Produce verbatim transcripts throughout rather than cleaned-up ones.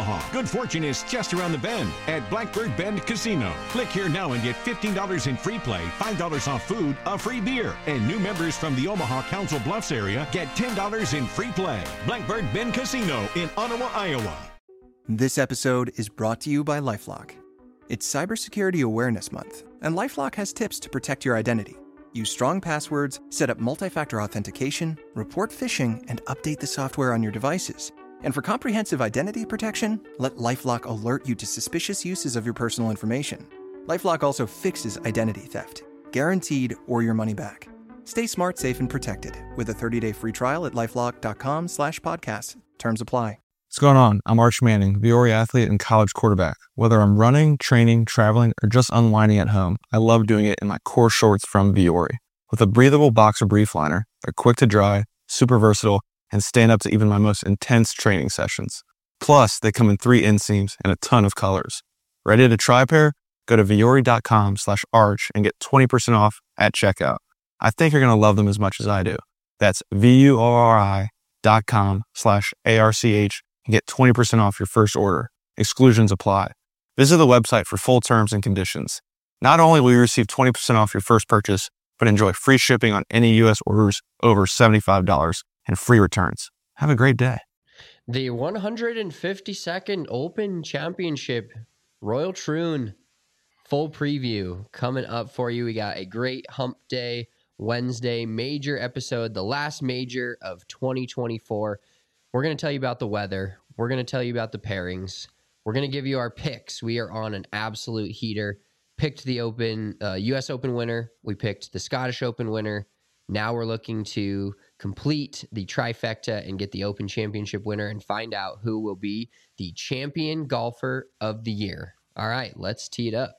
Omaha. Good fortune is just around the bend at Blackbird Bend Casino. Click here now and get fifteen dollars in free play, five dollars off food, a free beer. And new members from the Omaha Council Bluffs area get ten dollars in free play. Blackbird Bend Casino in Ottawa, Iowa. This episode is brought to you by LifeLock. It's Cybersecurity Awareness Month, and LifeLock has tips to protect your identity. Use strong passwords, set up multi-factor authentication, report phishing, and update the software on your devices. And for comprehensive identity protection, let LifeLock alert you to suspicious uses of your personal information. LifeLock also fixes identity theft, guaranteed or your money back. Stay smart, safe, and protected with a thirty-day free trial at LifeLock.com slash podcast. Terms apply. What's going on? I'm Arch Manning, Viore athlete and college quarterback. Whether I'm running, training, traveling, or just unwinding at home, I love doing it in my core shorts from Viore. With a breathable boxer brief liner, they're quick to dry, super versatile, and stand up to even my most intense training sessions. Plus, they come in three inseams and a ton of colors. Ready to try a pair? Go to Viore.com slash arch and get twenty percent off at checkout. I think you're going to love them as much as I do. That's V-U-O-R-I dot com slash A-R-C-H and get twenty percent off your first order. Exclusions apply. Visit the website for full terms and conditions. Not only will you receive twenty percent off your first purchase, but enjoy free shipping on any U S orders over seventy-five dollars and free returns. Have a great day. The one hundred fifty-second Open Championship, Royal Troon, full preview coming up for you. We got a great hump day Wednesday major episode, the last major of twenty twenty-four. We're going to tell you about the weather. We're going to tell you about the pairings. We're going to give you our picks. We are on an absolute heater. Picked the Open, uh, U S Open winner. We picked the Scottish Open winner. Now we're looking to complete the trifecta and get the Open Championship winner and find out who will be the champion golfer of the year. All right, let's tee it up.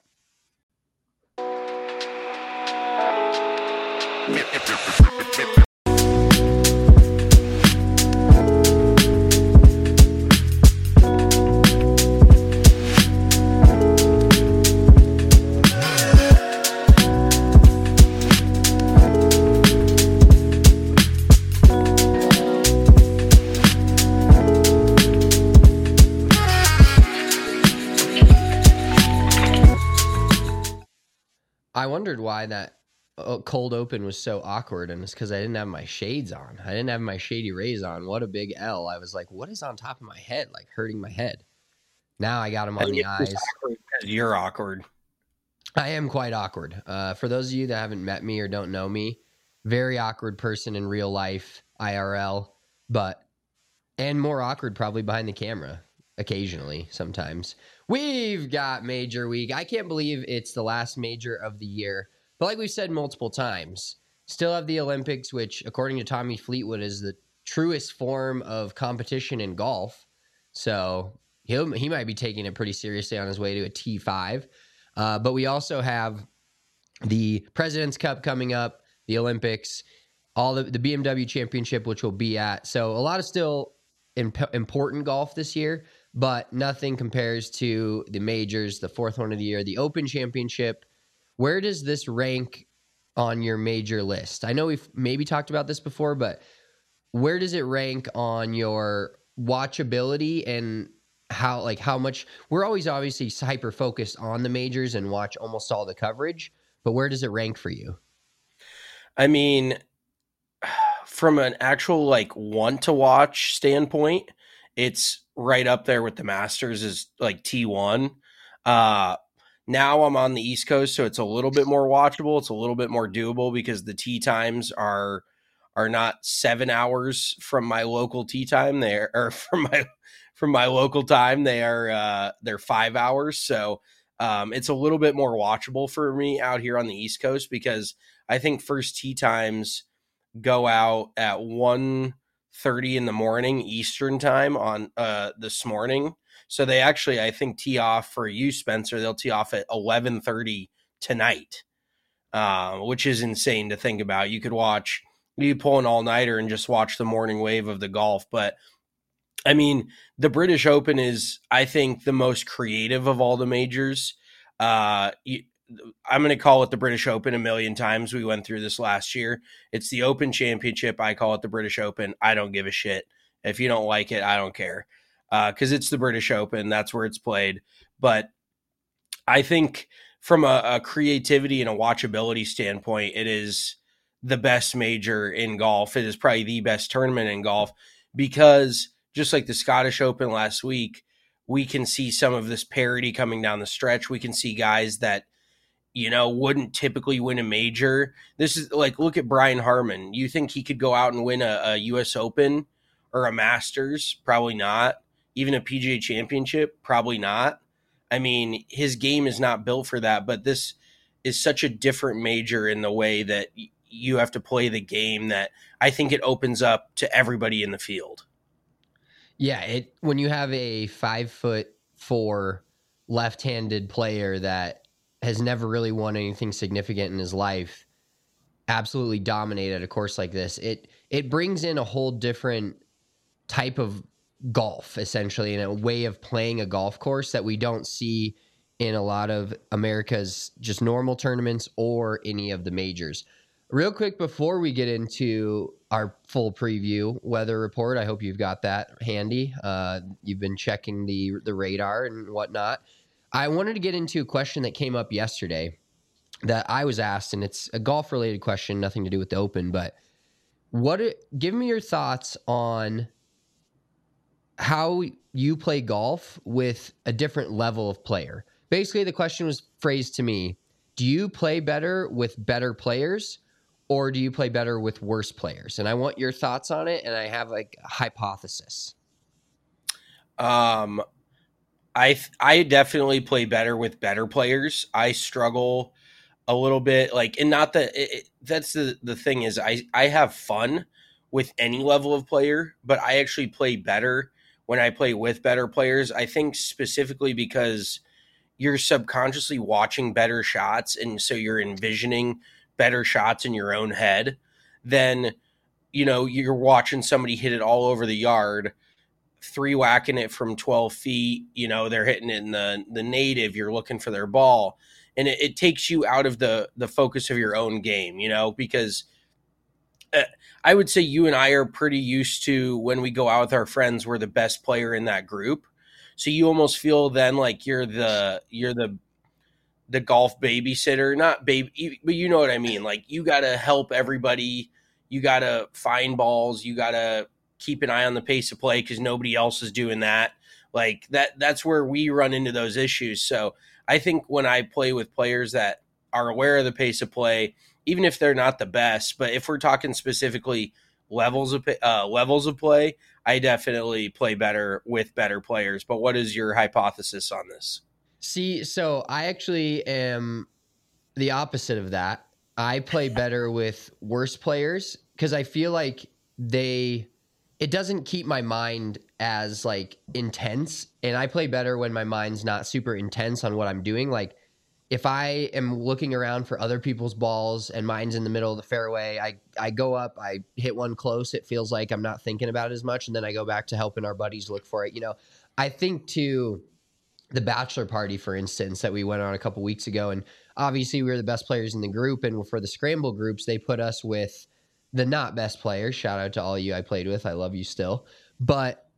I wondered why that cold open was so awkward, and it's because I didn't have my shades on. I didn't have my Shady Rays on. What a big L. I was like, what is on top of my head? Like hurting my head. Now I got them on the eyes. You're awkward. I am quite awkward. Uh, for those of you that haven't met me or don't know me, very awkward person in real life, I R L, but, and more awkward probably behind the camera. Occasionally, sometimes. We've got major week. I can't believe it's the last major of the year. But like we've said multiple times, still have the Olympics, which according to Tommy Fleetwood is the truest form of competition in golf. So he'll, he might be taking it pretty seriously on his way to a T five. Uh, but we also have the President's Cup coming up, the Olympics, all the, the B M W Championship, which we'll be at. So a lot of still imp- important golf this year. But nothing compares to the majors, the fourth one of the year, the Open Championship. Where does this rank on your major list? I know we've maybe talked about this before, but where does it rank on your watchability and how, like how much, we're always obviously hyper focused on the majors and watch almost all the coverage, but where does it rank for you? I mean, from an actual like want to watch standpoint, it's right up there with the Masters is like T one. Uh, now I'm on the East Coast, so it's a little bit more watchable. It's a little bit more doable because the tee times are are not seven hours from my local tee time. They're or from my from my local time. They are uh, they're five hours. So um, it's a little bit more watchable for me out here on the East Coast because I think first tee times go out at one thirty in the morning Eastern time on uh this morning. So they actually, I think, tee off for you, Spencer. They'll tee off at eleven thirty tonight, uh, which is insane to think about. You could watch, you could pull an all-nighter and just watch the morning wave of the golf. But I mean, the British Open is, I think, the most creative of all the majors. Uh, you, I'm going to call it the British Open a million times. We went through this last year. It's the Open Championship. I call it the British Open. I don't give a shit. If you don't like it, I don't care. because uh, it's the British Open. That's where it's played. But I think from a, a creativity and a watchability standpoint, it is the best major in golf. It is probably the best tournament in golf because just like the Scottish Open last week, we can see some of this parity coming down the stretch. We can see guys that, you know, wouldn't typically win a major. This is like, look at Brian Harman. You think he could go out and win a, a U S Open or a Masters? Probably not. Even a P G A Championship? Probably not. I mean, his game is not built for that, but this is such a different major in the way that y- you have to play the game that I think it opens up to everybody in the field. Yeah, it when you have a five foot four left-handed player that has never really won anything significant in his life, absolutely dominated a course like this, it it brings in a whole different type of golf, essentially, and a way of playing a golf course that we don't see in a lot of America's just normal tournaments or any of the majors. Real quick, before we get into our full preview weather report, I hope you've got that handy. Uh, you've been checking the the radar and whatnot. I wanted to get into a question that came up yesterday that I was asked, and it's a golf-related question, nothing to do with the Open, but what? Give me your thoughts on how you play golf with a different level of player. Basically, the question was phrased to me, do you play better with better players or do you play better with worse players? And I want your thoughts on it, and I have like a hypothesis. Um, I I definitely play better with better players. I struggle a little bit, like, and not that it, it, that's the the thing is I I have fun with any level of player, but I actually play better when I play with better players. I think specifically because you're subconsciously watching better shots, and so you're envisioning better shots in your own head. Then, you know, you're watching somebody hit it all over the yard, three whacking it from twelve feet. You know, they're hitting it in the the native. You're looking for their ball, and it, it takes you out of the the focus of your own game. You know, because uh, I would say you and I are pretty used to when we go out with our friends, we're the best player in that group. So you almost feel then like you're the you're the the golf babysitter, not baby, but you know what I mean? Like, you got to help everybody. You got to find balls. You got to keep an eye on the pace of play because nobody else is doing that. Like that, that's where we run into those issues. So I think when I play with players that are aware of the pace of play, even if they're not the best, but if we're talking specifically levels of uh, levels of play, I definitely play better with better players. But what is your hypothesis on this? See, so I actually am the opposite of that. I play better with worse players because I feel like they, it doesn't keep my mind as like intense. And I play better when my mind's not super intense on what I'm doing. Like if I am looking around for other people's balls and mine's in the middle of the fairway, I, I go up, I hit one close. It feels like I'm not thinking about it as much. And then I go back to helping our buddies look for it. You know, I think too, the bachelor party, for instance, that we went on a couple weeks ago. And obviously we were the best players in the group. And for the scramble groups, they put us with the not best players. Shout out to all of you I played with. I love you still. But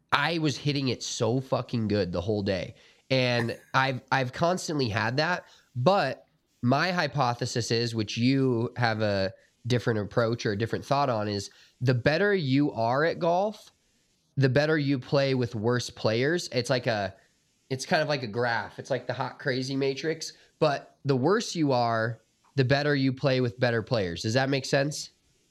I was hitting it so fucking good the whole day. And I've, I've constantly had that. But my hypothesis is, which you have a different approach or a different thought on, is the better you are at golf, the better you play with worse players. It's like a, It's kind of like a graph. It's like the hot crazy matrix. But the worse you are, the better you play with better players. Does that make sense?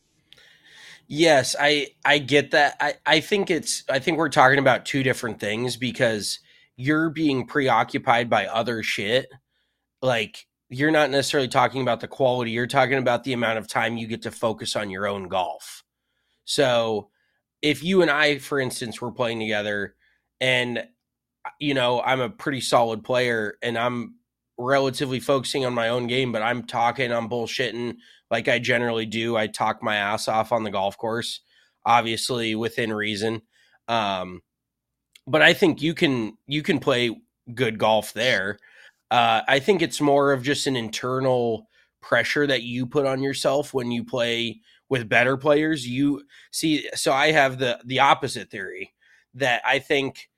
Yes, I I get that. I, I think it's I think we're talking about two different things because you're being preoccupied by other shit. Like, you're not necessarily talking about the quality. You're talking about the amount of time you get to focus on your own golf. So if you and I, for instance, were playing together and, you know, I'm a pretty solid player and I'm relatively focusing on my own game, but I'm talking, I'm bullshitting like I generally do. I talk my ass off on the golf course, obviously within reason. Um, but I think you can, you can play good golf there. Uh, I think it's more of just an internal pressure that you put on yourself when you play with better players. You see, so I have the, the opposite theory that I think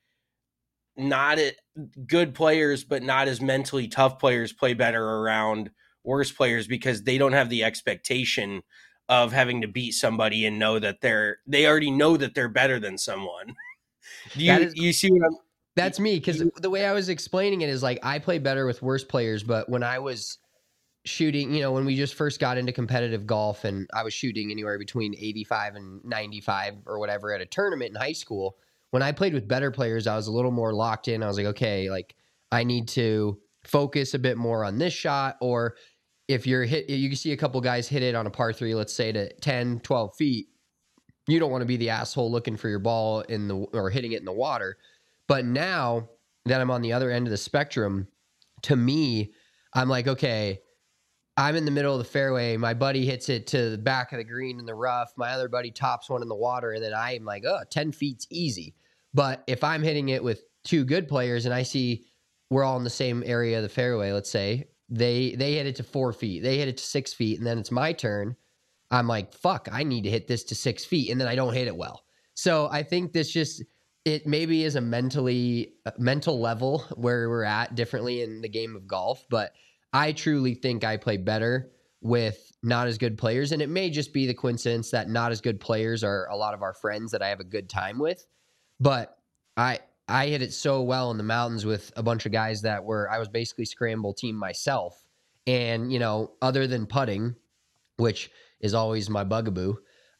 not it, good players, but not as mentally tough players play better around worse players because they don't have the expectation of having to beat somebody and know that they're, they already know that they're better than someone. Do you, is, you see what I'm, that's me. Cause the way I was explaining it is like, I play better with worse players, but when I was shooting, you know, when we just first got into competitive golf and I was shooting anywhere between eighty-five and ninety-five or whatever at a tournament in high school, when I played with better players, I was a little more locked in. I was like, okay, like I need to focus a bit more on this shot. Or if you're hit, you can see a couple guys hit it on a par three, let's say to ten, twelve feet. You don't want to be the asshole looking for your ball in the, or hitting it in the water. But now that I'm on the other end of the spectrum, to me, I'm like, okay, I'm in the middle of the fairway. My buddy hits it to the back of the green in the rough. My other buddy tops one in the water. And then I'm like, oh, ten feet's easy. But if I'm hitting it with two good players and I see we're all in the same area of the fairway, let's say, they they hit it to four feet. They hit it to six feet. And then it's my turn. I'm like, fuck, I need to hit this to six feet. And then I don't hit it well. So I think this just, it maybe is a mentally, mental level where we're at differently in the game of golf. But I truly think I play better with not as good players. And it may just be the coincidence that not as good players are a lot of our friends that I have a good time with. But I I hit it so well in the mountains with a bunch of guys that were, I was basically scramble team myself. And, you know, other than putting, which is always my bugaboo,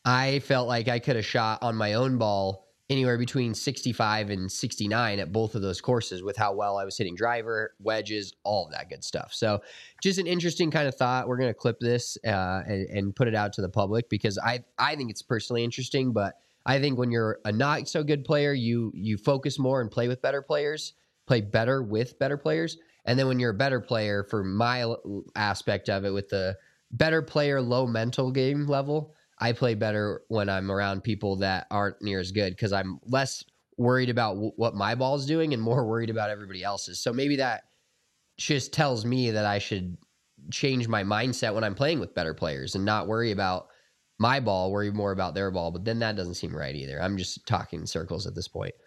I felt like I could have shot on my own ball anywhere between sixty-five and sixty-nine at both of those courses with how well I was hitting driver, wedges, all of that good stuff. So just an interesting kind of thought. We're going to clip this uh, and, and put it out to the public because I, I think it's personally interesting, but I think when you're a not so good player, you, you focus more and play with better players, play better with better players. And then when you're a better player, for my aspect of it with the better player, low mental game level, I play better when I'm around people that aren't near as good because I'm less worried about w- what my ball's doing and more worried about everybody else's. So maybe that just tells me that I should change my mindset when I'm playing with better players and not worry about my ball, worry more about their ball. But then that doesn't seem right either. I'm just talking in circles at this point.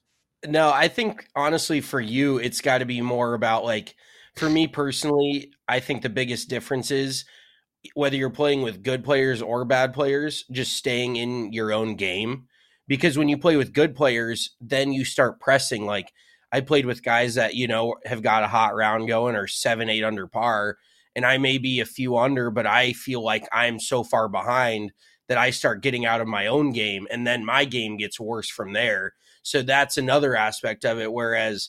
No, I think honestly for you, it's got to be more about like, for me personally, I think the biggest difference is whether you're playing with good players or bad players, just staying in your own game. Because when you play with good players, then you start pressing. Like I played with guys that, you know, have got a hot round going or seven, eight under par, and I may be a few under, but I feel like I'm so far behind that I start getting out of my own game, and then my game gets worse from there. So that's another aspect of it. Whereas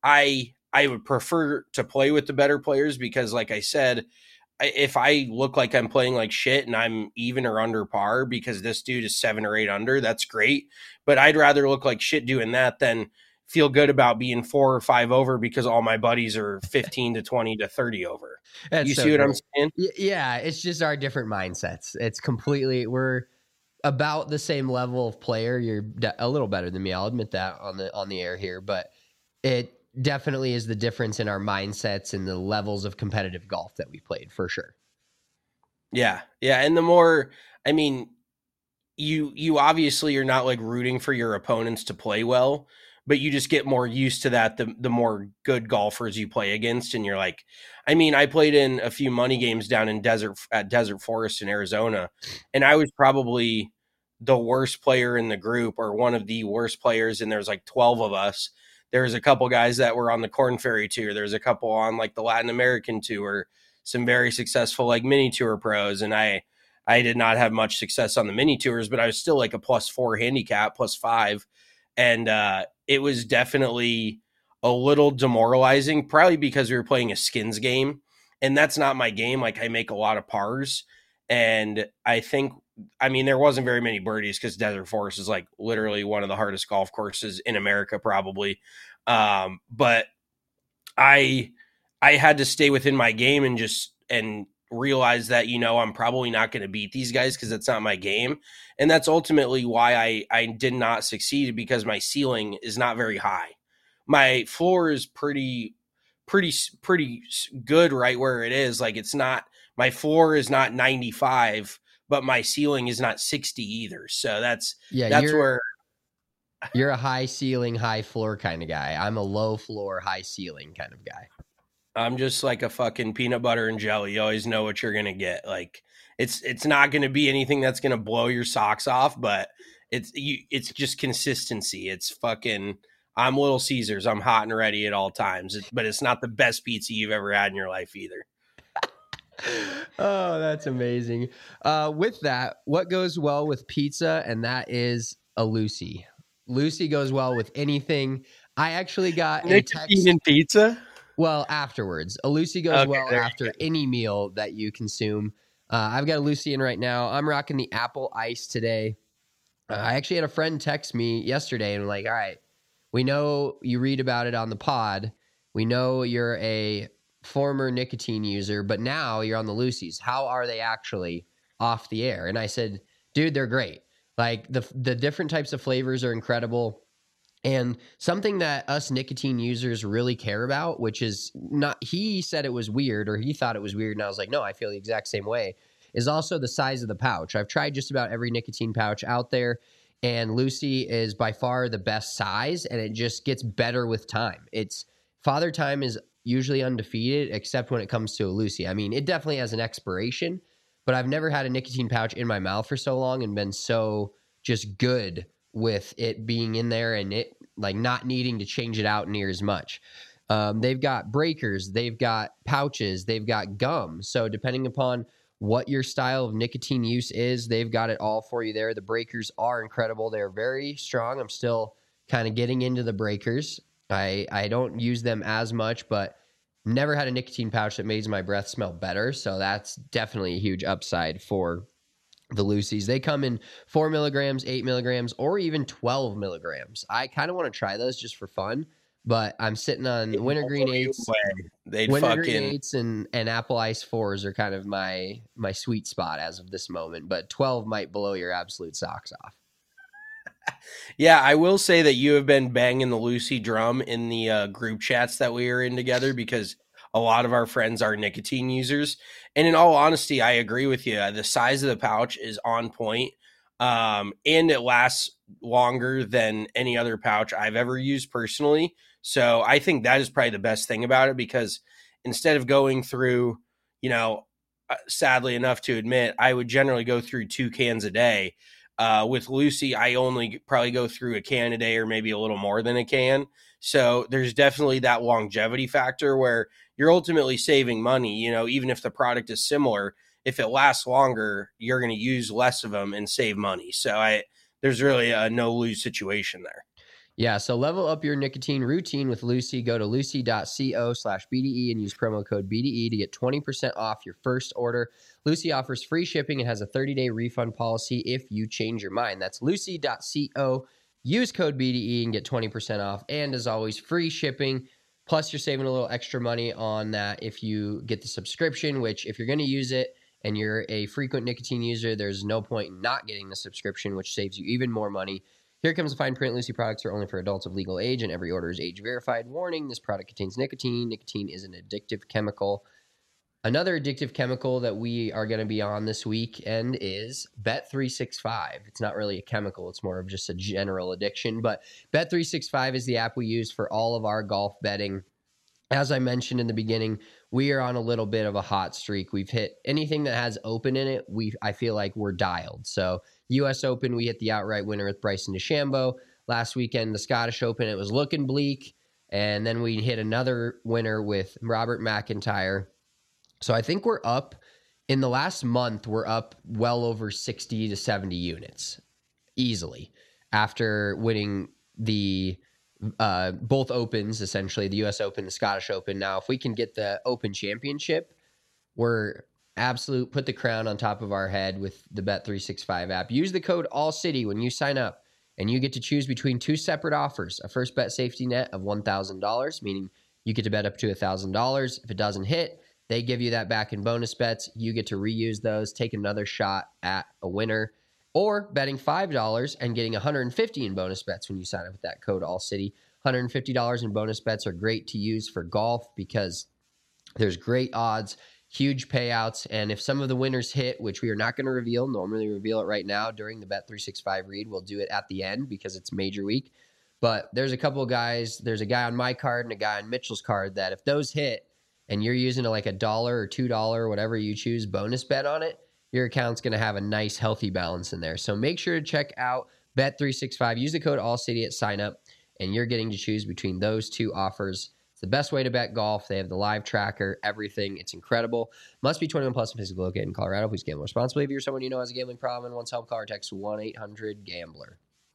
I I would prefer to play with the better players because, like I said, if I look like I'm playing like shit and I'm even or under par because this dude is seven or eight under, that's great. But I'd rather look like shit doing that than feel good about being four or five over because all my buddies are fifteen to twenty to thirty over. That's you so see what great. I'm saying? Yeah, it's just our different mindsets. It's completely, we're about the same level of player. You're a little better than me. I'll admit that on the on the air here, but it definitely is the difference in our mindsets and the levels of competitive golf that we played for sure. Yeah. Yeah. And the more, I mean, you, you obviously are not like rooting for your opponents to play well, but you just get more used to that. The, the more good golfers you play against. And you're like, I mean, I played in a few money games down in desert at Desert Forest in Arizona, and I was probably the worst player in the group or one of the worst players. And there's like twelve of us. There's a couple guys that were on the Corn Ferry Tour. There's a couple on like the Latin American Tour, some very successful like mini tour pros. And I, I did not have much success on the mini tours, but I was still like a plus four handicap, plus five. And uh, it was definitely a little demoralizing, probably because we were playing a skins game. And that's not my game. Like I make a lot of pars. And I think, I mean, there wasn't very many birdies because Desert Forest is like literally one of the hardest golf courses in America, probably. Um, but I, I had to stay within my game and just, and realize that, you know, I'm probably not going to beat these guys because that's not my game. And that's ultimately why I, I did not succeed, because my ceiling is not very high. My floor is pretty, pretty, pretty good right where it is. Like it's not, my floor is not ninety-five, but my ceiling is not sixty either. So that's, yeah, that's you're, where You're a high ceiling, high floor kind of guy. I'm a low floor, high ceiling kind of guy. I'm just like a fucking peanut butter and jelly. You always know what you're gonna get. Like it's it's not gonna be anything that's gonna blow your socks off, but it's you. It's just consistency. It's fucking. I'm Little Caesars. I'm hot and ready at all times. It, but it's not the best pizza you've ever had in your life either. Oh, that's amazing. Uh, with that, what goes well with pizza, and that is a Lucy. Lucy goes well with anything. I actually got a text. In pizza? Well, afterwards. A Lucy goes Okay, well there you after go. any meal that you consume. Uh, I've got a Lucy in right now. I'm rocking the apple ice today. Uh, I actually had a friend text me yesterday and like, all right, we know you read about it on the pod. We know you're a former nicotine user, but now you're on the Lucy's. How are they actually off the air? And I said, dude, they're great. Like the the different types of flavors are incredible. And something that us nicotine users really care about, which is not, he said it was weird or he thought it was weird. And I was like, no, I feel the exact same way, is also the size of the pouch. I've tried just about every nicotine pouch out there, and Lucy is by far the best size, and it just gets better with time. It's Father Time is usually undefeated, except when it comes to a Lucy. I mean, it definitely has an expiration, but I've never had a nicotine pouch in my mouth for so long and been so just good with it being in there and it like not needing to change it out near as much. Um, they've got breakers, they've got pouches, they've got gum. So depending upon what your style of nicotine use is, they've got it all for you there. The breakers are incredible. They're very strong. I'm still kind of getting into the breakers. I, I don't use them as much, but never had a nicotine pouch that makes my breath smell better. So that's definitely a huge upside for the Lucy's. They come in four milligrams, eight milligrams, or even twelve milligrams. I kind of want to try those just for fun, but I'm sitting on wintergreen eights. They'd Wintergreen fucking eights and, and apple ice fours are kind of my my sweet spot as of this moment, but twelve might blow your absolute socks off. Yeah, I will say that you have been banging the Lucy drum in the uh, group chats that we are in together because a lot of our friends are nicotine users. And in all honesty, I agree with you. The size of the pouch is on point, um, and it lasts longer than any other pouch I've ever used personally. So I think that is probably the best thing about it, because instead of going through, you know, uh, sadly enough to admit, I would generally go through two cans a day. Uh, with Lucy, I only probably go through a can a day or maybe a little more than a can. So there's definitely that longevity factor where you're ultimately saving money. You know, even if the product is similar, if it lasts longer, you're going to use less of them and save money. So I, there's really a no lose situation there. Yeah, so level up your nicotine routine with Lucy. Go to lucy.co slash BDE and use promo code B D E to get twenty percent off your first order. Lucy offers free shipping and has a thirty-day refund policy if you change your mind. That's lucy.co. Use code B D E and get twenty percent off. And as always, free shipping. Plus, you're saving a little extra money on that if you get the subscription, which if you're going to use it and you're a frequent nicotine user, there's no point in not getting the subscription, which saves you even more money. Here comes the fine print. Lucy products are only for adults of legal age, and every order is age verified. Warning, this product contains nicotine. Nicotine is an addictive chemical. Another addictive chemical that we are going to be on this weekend is Bet three sixty-five. It's not really a chemical. It's more of just a general addiction. But Bet three sixty-five is the app we use for all of our golf betting. As I mentioned in the beginning, we are on a little bit of a hot streak. We've hit anything that has open in it. We I feel like we're dialed. So U S Open, we hit the outright winner with Bryson DeChambeau. Last weekend, the Scottish Open, it was looking bleak. And then we hit another winner with Robert McIntyre. So I think we're up. In the last month, we're up well over sixty to seventy units easily after winning the uh, both Opens, essentially, the U S Open, the Scottish Open. Now, if we can get the Open Championship, we're absolute, put the crown on top of our head with the Bet three sixty-five app. Use the code ALLCITY when you sign up, and you get to choose between two separate offers. A first bet safety net of one thousand dollars, meaning you get to bet up to one thousand dollars. If it doesn't hit, they give you that back in bonus bets. You get to reuse those, take another shot at a winner, or betting five dollars and getting one hundred fifty dollars in bonus bets when you sign up with that code ALLCITY. one hundred fifty dollars in bonus bets are great to use for golf because there's great odds huge payouts. And if some of the winners hit, which we are not going to reveal, normally reveal it right now during the Bet three sixty-five read, we'll do it at the end because it's major week. But there's a couple of guys, there's a guy on my card and a guy on Mitchell's card that if those hit and you're using a, like a dollar or two dollar, whatever you choose, bonus bet on it, your account's going to have a nice healthy balance in there. So make sure to check out Bet three sixty-five. Use the code AllCity at sign up, and you're getting to choose between those two offers. It's the best way to bet golf. They have the live tracker, everything. It's incredible. Must be twenty-one plus and physically located in Colorado. Please gamble responsibly. If you're someone you know has a gambling problem and wants help, call or text one eight hundred gambler.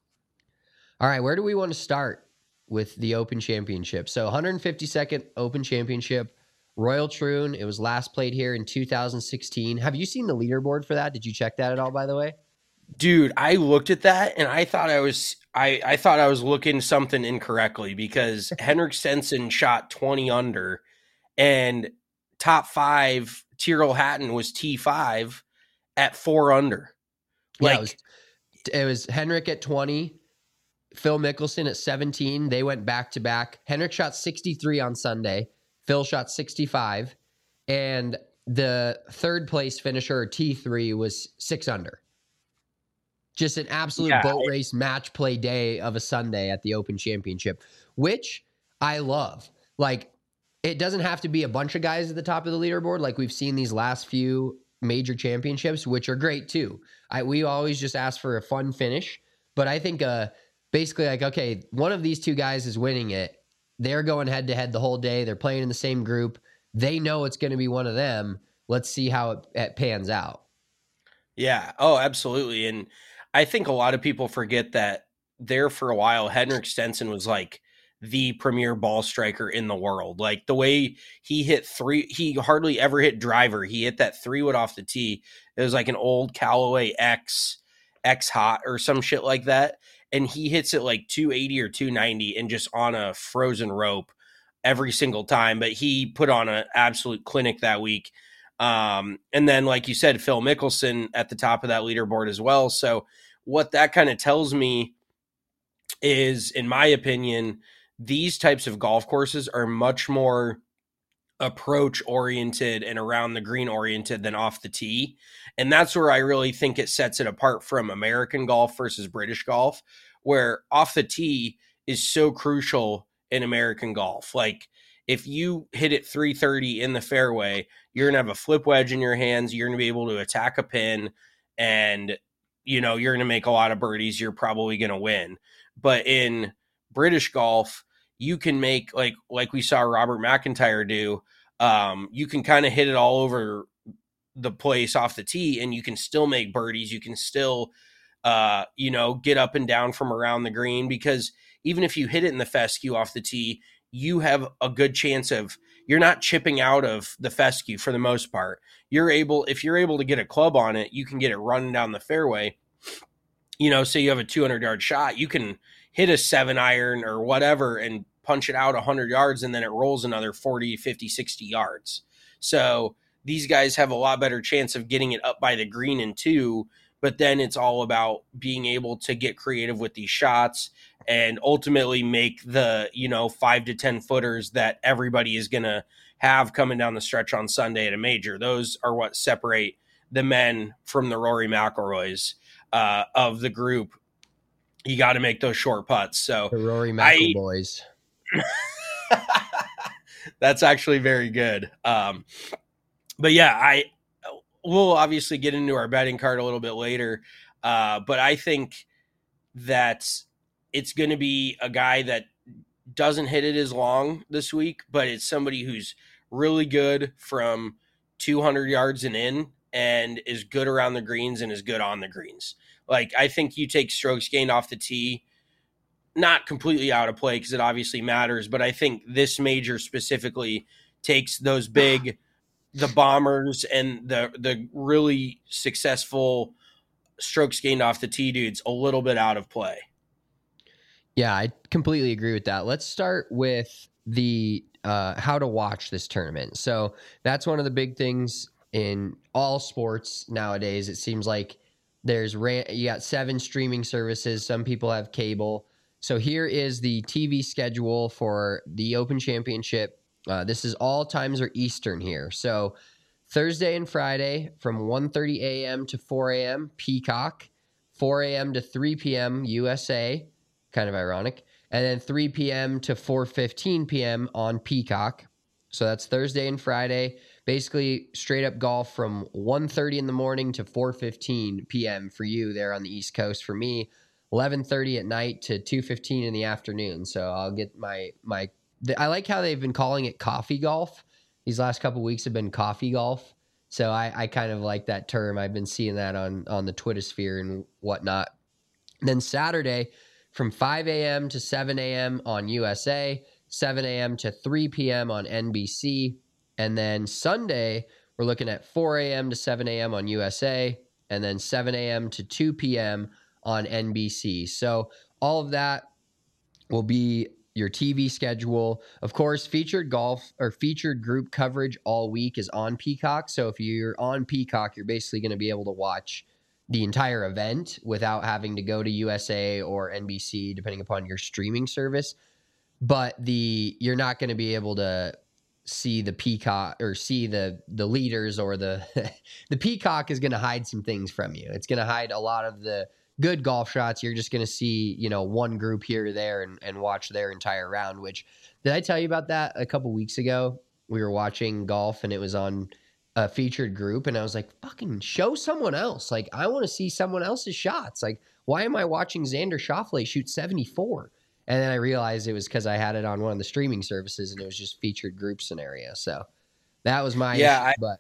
All right, where do we want to start with the Open Championship? So one hundred fifty-second Open Championship, Royal Troon. It was last played here in two thousand sixteen. Have you seen the leaderboard for that? Did you check that at all, by the way? Dude, I looked at that and I thought I was I, I thought I was looking something incorrectly because Henrik Stenson shot twenty under and top five Tyrrell Hatton was T five at four under. Like Yeah, it was, it was Henrik at twenty, Phil Mickelson at seventeen. They went back to back. Henrik shot sixty-three on Sunday. Phil shot sixty-five. And the third place finisher, T three, was six under. Just an absolute Yeah. boat race match play day of a Sunday at the Open Championship, which I love. Like, it doesn't have to be a bunch of guys at the top of the leaderboard like we've seen these last few major championships, which are great too. I we always just ask for a fun finish, but I think uh basically like, okay, one of these two guys is winning it. They're going head to head the whole day. They're playing in the same group. They know it's going to be one of them. Let's see how it, it pans out. Yeah. Oh, absolutely. And I think a lot of people forget that there for a while, Henrik Stenson was like the premier ball striker in the world. Like the way he hit three, he hardly ever hit driver. He hit that three wood off the tee. It was like an old Callaway X, X Hot or some shit like that. And he hits it like two eighty or two ninety and just on a frozen rope every single time. But he put on an absolute clinic that week. Um, and then, like you said, Phil Mickelson at the top of that leaderboard as well. So what that kind of tells me is, in my opinion, these types of golf courses are much more approach oriented and around the green oriented than off the tee. And that's where I really think it sets it apart from American golf versus British golf, where off the tee is so crucial in American golf. Like, if you hit it three thirty in the fairway, you're going to have a flip wedge in your hands. You're going to be able to attack a pin and, you know, you're going to make a lot of birdies. You're probably going to win. But in British golf, you can make, like, like we saw Robert McIntyre do. Um, you can kind of hit it all over the place off the tee and you can still make birdies. You can still, uh, you know, get up and down from around the green, because even if you hit it in the fescue off the tee, you have a good chance of, you're not chipping out of the fescue for the most part. You're able, if you're able to get a club on it, you can get it running down the fairway. You know, say you have a two hundred yard shot, you can hit a seven iron or whatever and punch it out one hundred yards, and then it rolls another forty, fifty, sixty yards. So these guys have a lot better chance of getting it up by the green in two, but then it's all about being able to get creative with these shots and ultimately make the, you know, five to ten footers that everybody is going to have coming down the stretch on Sunday at a major. Those are what separate the men from the Rory McIlroys uh, of the group. You got to make those short putts. So The Rory McIlroys. That's actually very good. Um, but yeah, I we'll obviously get into our betting card a little bit later. Uh, but I think that it's going to be a guy that doesn't hit it as long this week, but it's somebody who's really good from two hundred yards and in, and is good around the greens and is good on the greens. Like, I think you take strokes gained off the tee, not completely out of play because it obviously matters, but I think this major specifically takes those big, the bombers and the the really successful strokes gained off the tee dudes a little bit out of play. Yeah, I completely agree with that. Let's start with the uh, how to watch this tournament. So that's one of the big things in all sports nowadays. It seems like there's ran- you got seven streaming services. Some people have cable. So here is the T V schedule for the Open Championship. Uh, this is all times are Eastern here. So Thursday and Friday from one thirty a.m. to four a.m. Peacock, four a.m. to three p.m. U S A, kind of ironic, and then three p.m. to four fifteen p.m. on Peacock. So that's Thursday and Friday. Basically, straight up golf from one thirty in the morning to four fifteen p.m. for you there on the East Coast. For me, eleven thirty at night to two fifteen in the afternoon. So I'll get my my. I like how they've been calling it coffee golf. These last couple of weeks have been coffee golf. So I, I kind of like that term. I've been seeing that on on the Twitter sphere and whatnot. And then Saturday from five a.m. to seven a.m. on U S A, seven a.m. to three p.m. on N B C. And then Sunday, we're looking at four a.m. to seven a.m. on U S A, and then seven a.m. to two p.m. on N B C. So all of that will be your T V schedule. Of course, featured golf or featured group coverage all week is on Peacock. So if you're on Peacock, you're basically going to be able to watch the entire event without having to go to U S A or N B C, depending upon your streaming service. But the you're not going to be able to see the Peacock or see the the leaders or the the Peacock is going to hide some things from you. It's going to hide a lot of the good golf shots. You're just going to see, you know, one group here or there and, and watch their entire round, which did I tell you about that a couple weeks ago? We were watching golf and it was on a featured group and I was like, fucking show someone else. Like, I want to see someone else's shots. Like, why am I watching Xander Schauffele shoot seventy-four? And then I realized it was because I had it on one of the streaming services and it was just featured group scenario. So that was my yeah, issue, I, but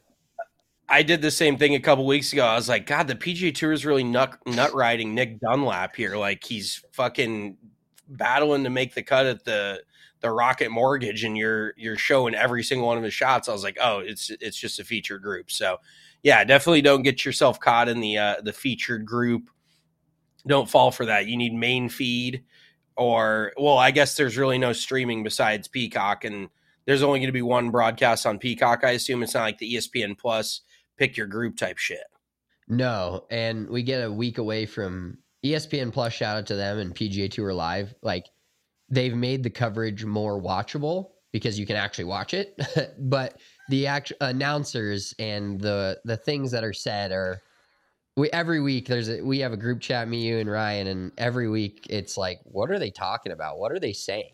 I did the same thing a couple weeks ago. I was like, God, the P G A Tour is really nut, nut riding Nick Dunlap here. Like, he's fucking battling to make the cut at the the Rocket Mortgage, and you're you're showing every single one of his shots. I was like, oh, it's it's just a featured group. So, yeah, definitely don't get yourself caught in the uh, the featured group. Don't fall for that. You need main feed, or well, I guess there's really no streaming besides Peacock, and there's only going to be one broadcast on Peacock. I assume it's not like the E S P N Plus pick your group type shit. No, and we get a week away from E S P N Plus. Shout out to them and P G A Tour Live. Like, they've made the coverage more watchable because you can actually watch it. But the actual announcers and the the things that are said are we every week there's a, we have a group chat, me, you, and Ryan, and every week it's like, what are they talking about? What are they saying?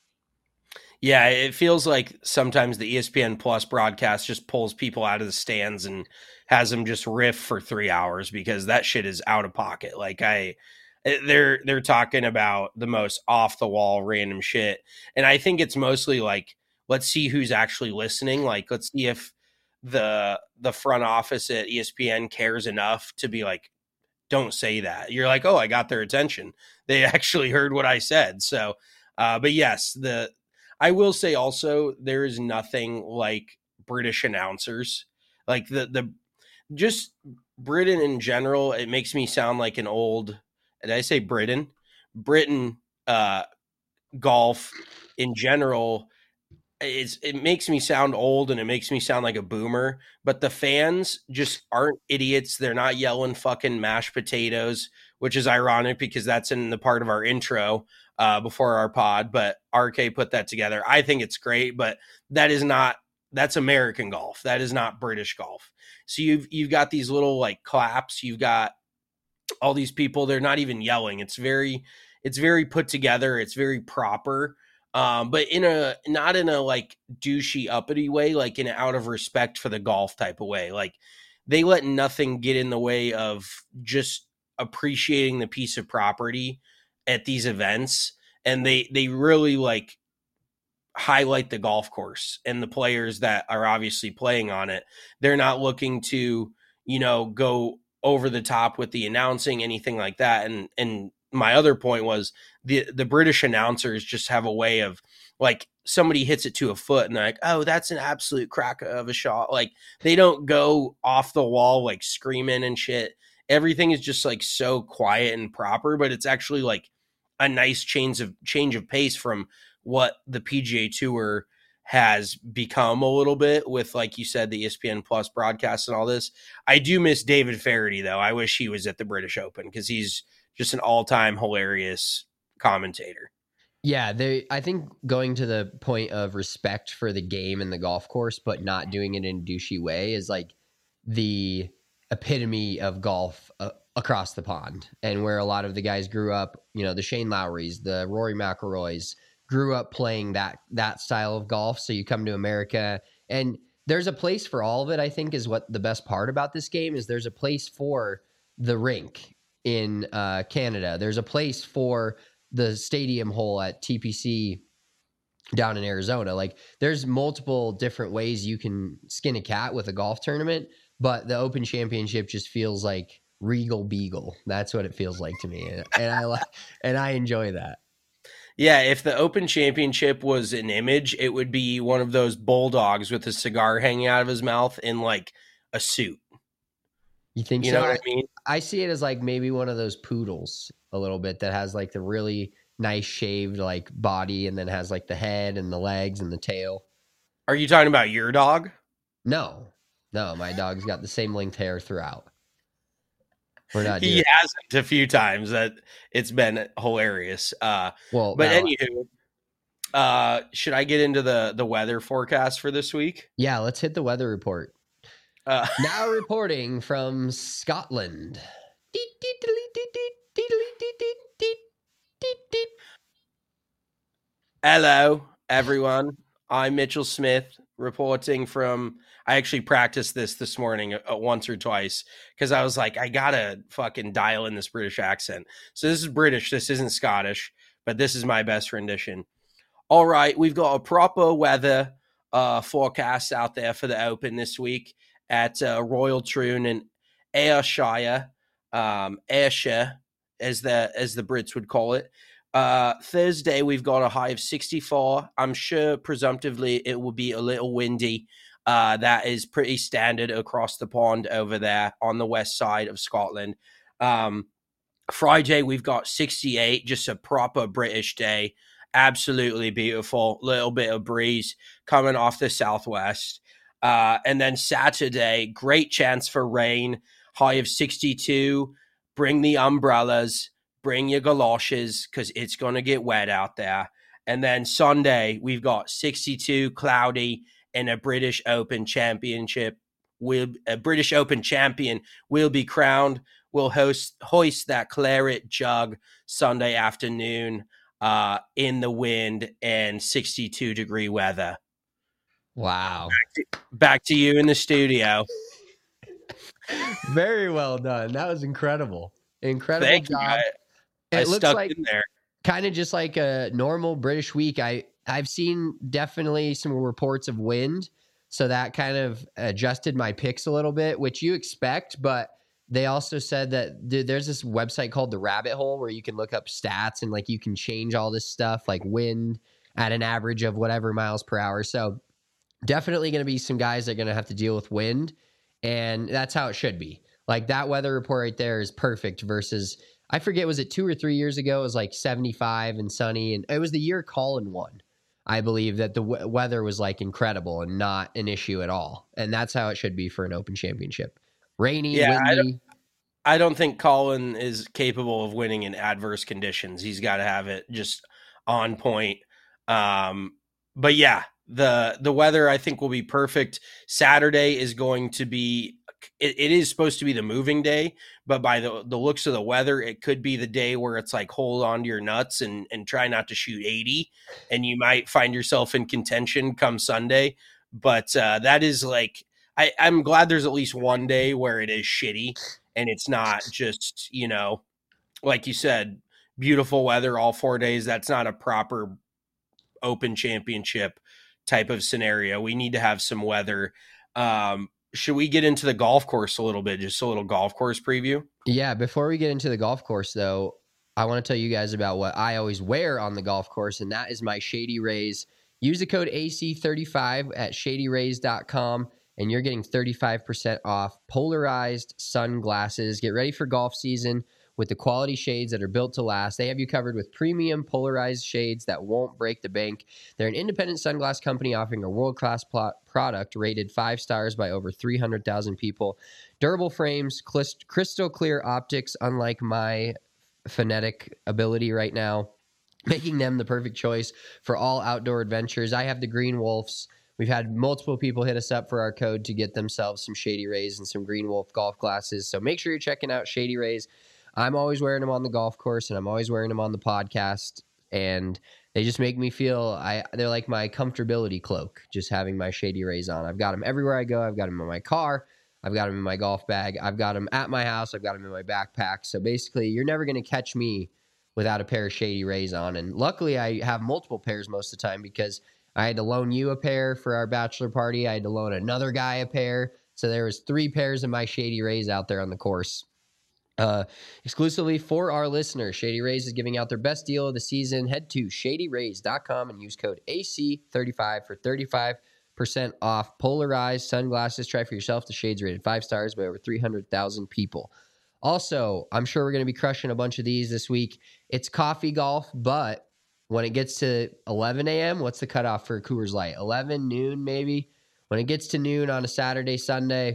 Yeah, it feels like sometimes the E S P N Plus broadcast just pulls people out of the stands and has them just riff for three hours because that shit is out of pocket. Like, I, they're they're talking about the most off the wall random shit, and I think it's mostly like, let's see who's actually listening. Like, let's see if the the front office at E S P N cares enough to be like, don't say that. You're like, oh, I got their attention. They actually heard what I said. So, uh, but yes, the. I will say also there is nothing like British announcers. Like the the just Britain in general, it makes me sound like an old, did I say Britain? Britain uh, golf in general, it's, it makes me sound old and it makes me sound like a boomer, but the fans just aren't idiots. They're not yelling fucking mashed potatoes, which is ironic because that's in the part of our intro uh, before our pod, but R K put that together. I think it's great, but that is not, that's American golf. That is not British golf. So you've, you've got these little like claps. You've got all these people. They're not even yelling. It's very, it's very put together. It's very proper. Um, but in a, not in a like douchey uppity way, like in an out of respect for the golf type of way. Like, they let nothing get in the way of just appreciating the piece of property at these events. And they, they really like highlight the golf course and the players that are obviously playing on it. They're not looking to, you know, go over the top with the announcing, anything like that. And, and my other point was the, the British announcers just have a way of like, somebody hits it to a foot and they're like, oh, that's an absolute crack of a shot. Like, they don't go off the wall, like screaming and shit. Everything is just like so quiet and proper, but it's actually like a nice change of change of pace from what the P G A Tour has become a little bit with, like you said, the E S P N Plus broadcast and all this. I do miss David Feherty though. I wish he was at the British Open because he's just an all-time hilarious commentator. Yeah, they. I think going to the point of respect for the game and the golf course, but not doing it in a douchey way, is like the epitome of golf uh, across the pond, and where a lot of the guys grew up. You know, the Shane Lowrys, the Rory McIlroys grew up playing that that style of golf. So you come to America, and there's a place for all of it. I think is what the best part about this game is. There's a place for the rink in uh, Canada. There's a place for the stadium hole at T P C down in Arizona. Like there's multiple different ways you can skin a cat with a golf tournament, but the Open Championship just feels like Regal Beagle. That's what it feels like to me. And, and I like, and I enjoy that. Yeah. If the Open Championship was an image, it would be one of those bulldogs with a cigar hanging out of his mouth in like a suit. You think You so? know what I mean? I see it as like maybe one of those poodles a little bit that has like the really nice shaved like body and then has like the head and the legs and the tail. Are you talking about your dog? No, no, my dog's got the same length hair throughout. We're not doing He hasn't a few times. That it's been hilarious. Uh, well, but no. anywho, uh, should I get into the the weather forecast for this week? Yeah, let's hit the weather report. Uh, Now reporting from Scotland. Hello, everyone. I'm Mitchell Smith reporting from. I actually practiced this this morning uh, once or twice because I was like, I gotta fucking dial in this British accent. So this is British. This isn't Scottish, but this is my best rendition. All right, we've got a proper weather uh, forecast out there for the Open this week at uh, Royal Troon in Ayrshire, um, Ayrshire, as the as the Brits would call it. Uh, Thursday, we've got a high of sixty-four. I'm sure presumptively it will be a little windy. Uh, that is pretty standard across the pond over there on the west side of Scotland. Um, Friday, we've got sixty-eight, just a proper British day. Absolutely beautiful. Little bit of breeze coming off the southwest. Uh, and then Saturday, great chance for rain, high of sixty-two. Bring the umbrellas, bring your galoshes, because it's going to get wet out there. And then Sunday, we've got sixty-two, cloudy, and a British Open championship. Will a British Open champion will be crowned. We'll host hoist that claret jug Sunday afternoon uh, in the wind and sixty-two degree weather. Wow. Back to, back to you in the studio. Very well done. That was incredible. Incredible Thank job. you. I, it I looks stuck like in there. kind of just like a normal British week. I, I've seen definitely some reports of wind, so that kind of adjusted my picks a little bit, which you expect, but they also said that dude, there's this website called The Rabbit Hole where you can look up stats and like you can change all this stuff like wind at an average of whatever miles per hour. So definitely going to be some guys that are going to have to deal with wind, and that's how it should be. Like that weather report right there is perfect versus, I forget, was it two or three years ago? It was like seventy-five and sunny, and it was the year Colin won. I believe that the w- weather was like incredible and not an issue at all. And that's how it should be for an Open Championship. Rainy, Yeah, I windy. don't, I don't think Colin is capable of winning in adverse conditions. He's got to have it just on point. Um, but yeah, the the weather I think will be perfect. Saturday is going to be it, it is supposed to be the moving day, but by the the looks of the weather, it could be the day where it's like hold on to your nuts and and try not to shoot eighty, and you might find yourself in contention come Sunday. But uh, that is like I, I'm glad there's at least one day where it is shitty and it's not just, you know, like you said, beautiful weather all four days. That's not a proper Open Championship type of scenario. We need to have some weather. Um, should we get into the golf course a little bit? Just a little golf course preview? Yeah, before we get into the golf course, though, I want to tell you guys about what I always wear on the golf course, and that is my Shady Rays. Use the code A C thirty-five at shady rays dot com, and you're getting thirty-five percent off polarized sunglasses. Get ready for golf season with the quality shades that are built to last. They have you covered with premium polarized shades that won't break the bank. They're an independent sunglass company offering a world-class plot product rated five stars by over three hundred thousand people. Durable frames, crystal clear optics, unlike my phonetic ability right now. making them the perfect choice for all outdoor adventures. I have the Green Wolves. We've had multiple people hit us up for our code to get themselves some Shady Rays and some Green Wolf golf glasses. So make sure you're checking out Shady Rays. I'm always wearing them on the golf course, and I'm always wearing them on the podcast. And they just make me feel, I they're like my comfortability cloak, just having my Shady Rays on. I've got them everywhere I go. I've got them in my car. I've got them in my golf bag. I've got them at my house. I've got them in my backpack. So basically, you're never going to catch me without a pair of Shady Rays on. And luckily, I have multiple pairs most of the time because I had to loan you a pair for our bachelor party. I had to loan another guy a pair. So there was three pairs of my Shady Rays out there on the course. Uh, exclusively for our listeners, Shady Rays is giving out their best deal of the season. Head to shady rays dot com and use code A C thirty-five for thirty-five percent off polarized sunglasses. Try for yourself. The shades rated five stars by over three hundred thousand people. Also, I'm sure we're going to be crushing a bunch of these this week. It's coffee golf, but when it gets to eleven a.m., what's the cutoff for Coors Light? eleven, noon, maybe? When it gets to noon on a Saturday, Sunday,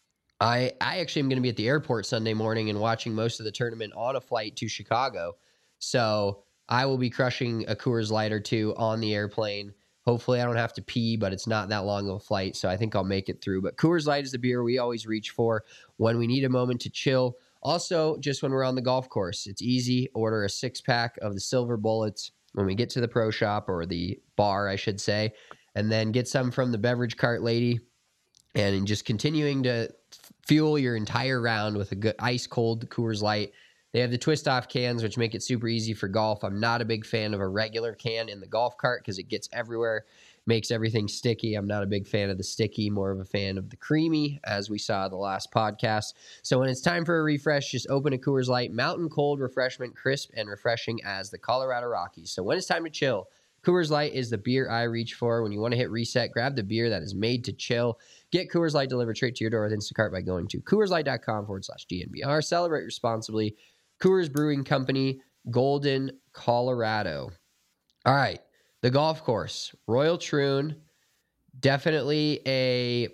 I, I actually am going to be at the airport Sunday morning and watching most of the tournament on a flight to Chicago. So I will be crushing a Coors Light or two on the airplane. Hopefully I don't have to pee, but it's not that long of a flight, so I think I'll make it through. But Coors Light is the beer we always reach for when we need a moment to chill. Also, just when we're on the golf course, it's easy. Order a six-pack of the Silver Bullets when we get to the pro shop, or the bar, I should say, and then get some from the beverage cart lady, and just continuing to fuel your entire round with a good ice-cold Coors Light. They have the twist-off cans, which make it super easy for golf. I'm not a big fan of a regular can in the golf cart because it gets everywhere, makes everything sticky. I'm not a big fan of the sticky, more of a fan of the creamy, as we saw the last podcast. So when it's time for a refresh, just open a Coors Light, mountain cold refreshment, crisp and refreshing as the Colorado Rockies. So when it's time to chill, Coors Light is the beer I reach for. When you want to hit reset, grab the beer that is made to chill. Get Coors Light delivered straight to your door with Instacart by going to CoorsLight.com forward slash DNVR. Celebrate responsibly. Coors Brewing Company, Golden, Colorado. All right, the golf course. Royal Troon, definitely a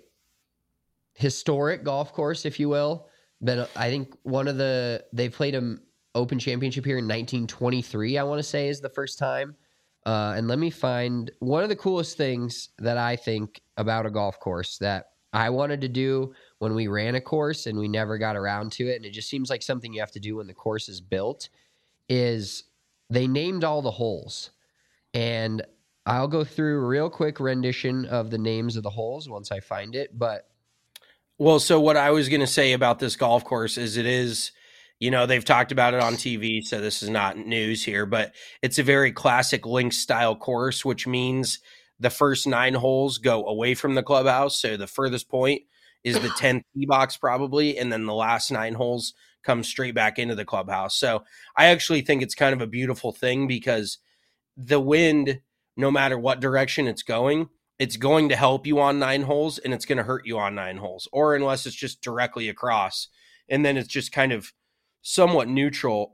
historic golf course, if you will. Been, I think one of the, they played an Open Championship here in nineteen twenty-three, I want to say, is the first time. Uh, and let me find one of the coolest things that I think about a golf course that I wanted to do when we ran a course and we never got around to it, and it just seems like something you have to do when the course is built, is they named all the holes. And I'll go through a real quick rendition of the names of the holes once I find it. But well, so what I was going to say about this golf course is it is, you know, they've talked about it on T V, so this is not news here, but it's a very classic links style course, which means the first nine holes go away from the clubhouse. So the furthest point is the tenth tee box probably, and then the last nine holes come straight back into the clubhouse. So I actually think it's kind of a beautiful thing because the wind, no matter what direction it's going, it's going to help you on nine holes and it's going to hurt you on nine holes, or unless it's just directly across. And then it's just kind of somewhat neutral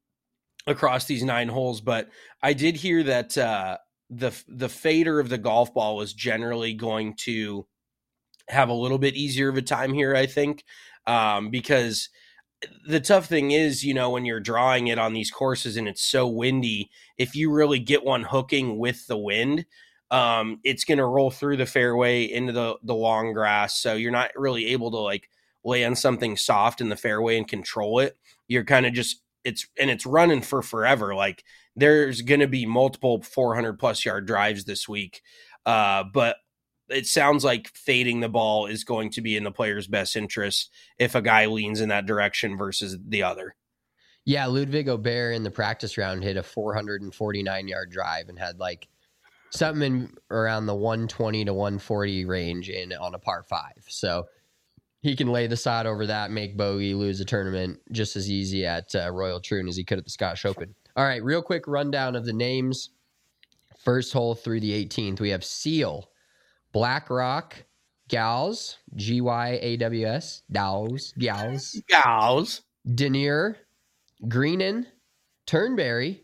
across these nine holes. But I did hear that uh, the the fader of the golf ball was generally going to have a little bit easier of a time here, I think, um, because the tough thing is, you know, when you're drawing it on these courses and it's so windy, if you really get one hooking with the wind, um, it's going to roll through the fairway into the, the long grass. So you're not really able to like lay on something soft in the fairway and control it. You're kind of just, it's, and it's running for forever. Like there's going to be multiple four hundred plus yard drives this week. Uh, but it sounds like fading the ball is going to be in the player's best interest if a guy leans in that direction versus the other. Yeah, Ludwig Aubert in the practice round hit a four hundred forty-nine yard drive and had like something in around the one twenty to one forty range in on a par five. So he can lay the sod over that, make bogey, lose a tournament just as easy at uh, Royal Troon as he could at the Scottish Open. All right, real quick rundown of the names. First hole through the eighteenth, we have Seal, Black Rock, Gals, G Y A W S, Gals, Gals, Gals, Denier, Greenan, Turnberry,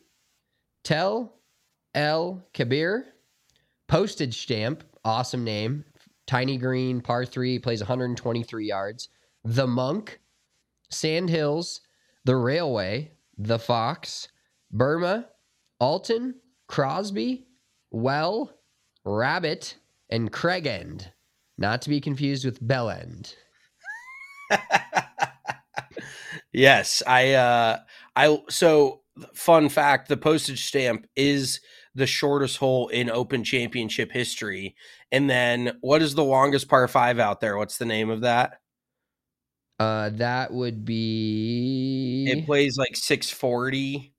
Tel El Kabir, Postage Stamp, awesome name, Tiny Green, par three, plays one hundred twenty-three yards, The Monk, Sand Hills, The Railway, The Fox, Burma, Alton, Crosby, Well, Rabbit, and Craig End. Not to be confused with Bell End. Yes, I, uh, I, so fun fact, the postage stamp is the shortest hole in Open Championship history. And then what is the longest par five out there? What's the name of that? Uh, that would be... It plays like six forty.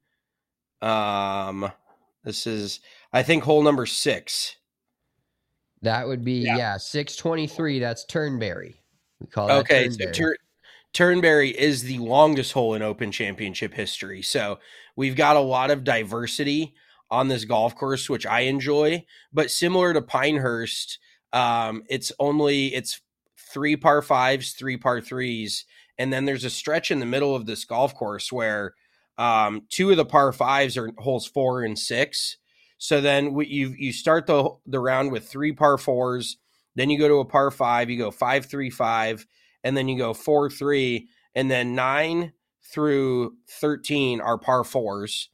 Um, this is, I think, hole number six. That would be, yeah, yeah six twenty-three. That's Turnberry. We call that okay, Turnberry. so Tur- Turnberry is the longest hole in Open Championship history. So we've got a lot of diversity on this golf course, which I enjoy. But similar to Pinehurst, um, it's only it's three par fives, three par threes, and then there's a stretch in the middle of this golf course where um, two of the par fives are holes four and six. So then we, you you start the the round with three par fours, then you go to a par five, you go five three five. And then you go four, three, and then nine through thirteen are par fours.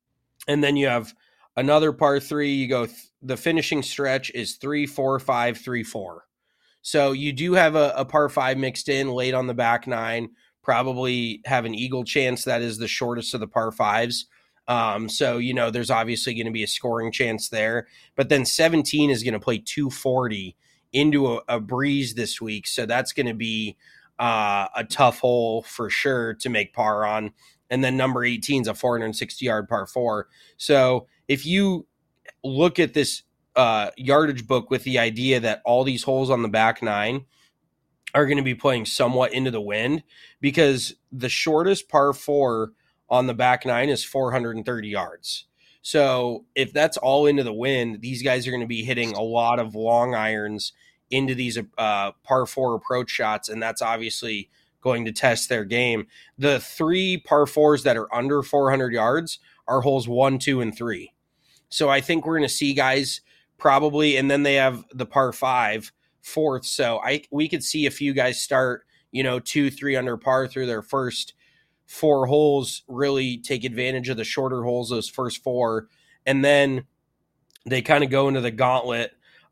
And then you have another par three. You go, th- the finishing stretch is three, four, five, three, four. So you do have a, a par five mixed in late on the back nine, probably have an eagle chance. That is the shortest of the par fives. Um, so, you know, there's obviously going to be a scoring chance there. But then seventeen is going to play two forty into a, a breeze this week. So that's going to be uh, a tough hole for sure to make par on. And then number eighteen is a four hundred sixty yard par four. So if you look at this uh, yardage book with the idea that all these holes on the back nine are going to be playing somewhat into the wind, because the shortest par four on the back nine is four hundred thirty yards. So if that's all into the wind, these guys are going to be hitting a lot of long irons into these uh, par four approach shots, and that's obviously going to test their game. The three par fours that are under four hundred yards are holes one, two, and three. So I think we're going to see guys probably, and then they have the par five fourth. So I we could see a few guys start, you know, two, three under par through their first four holes, really take advantage of the shorter holes, those first four. And then they kind of go into the gauntlet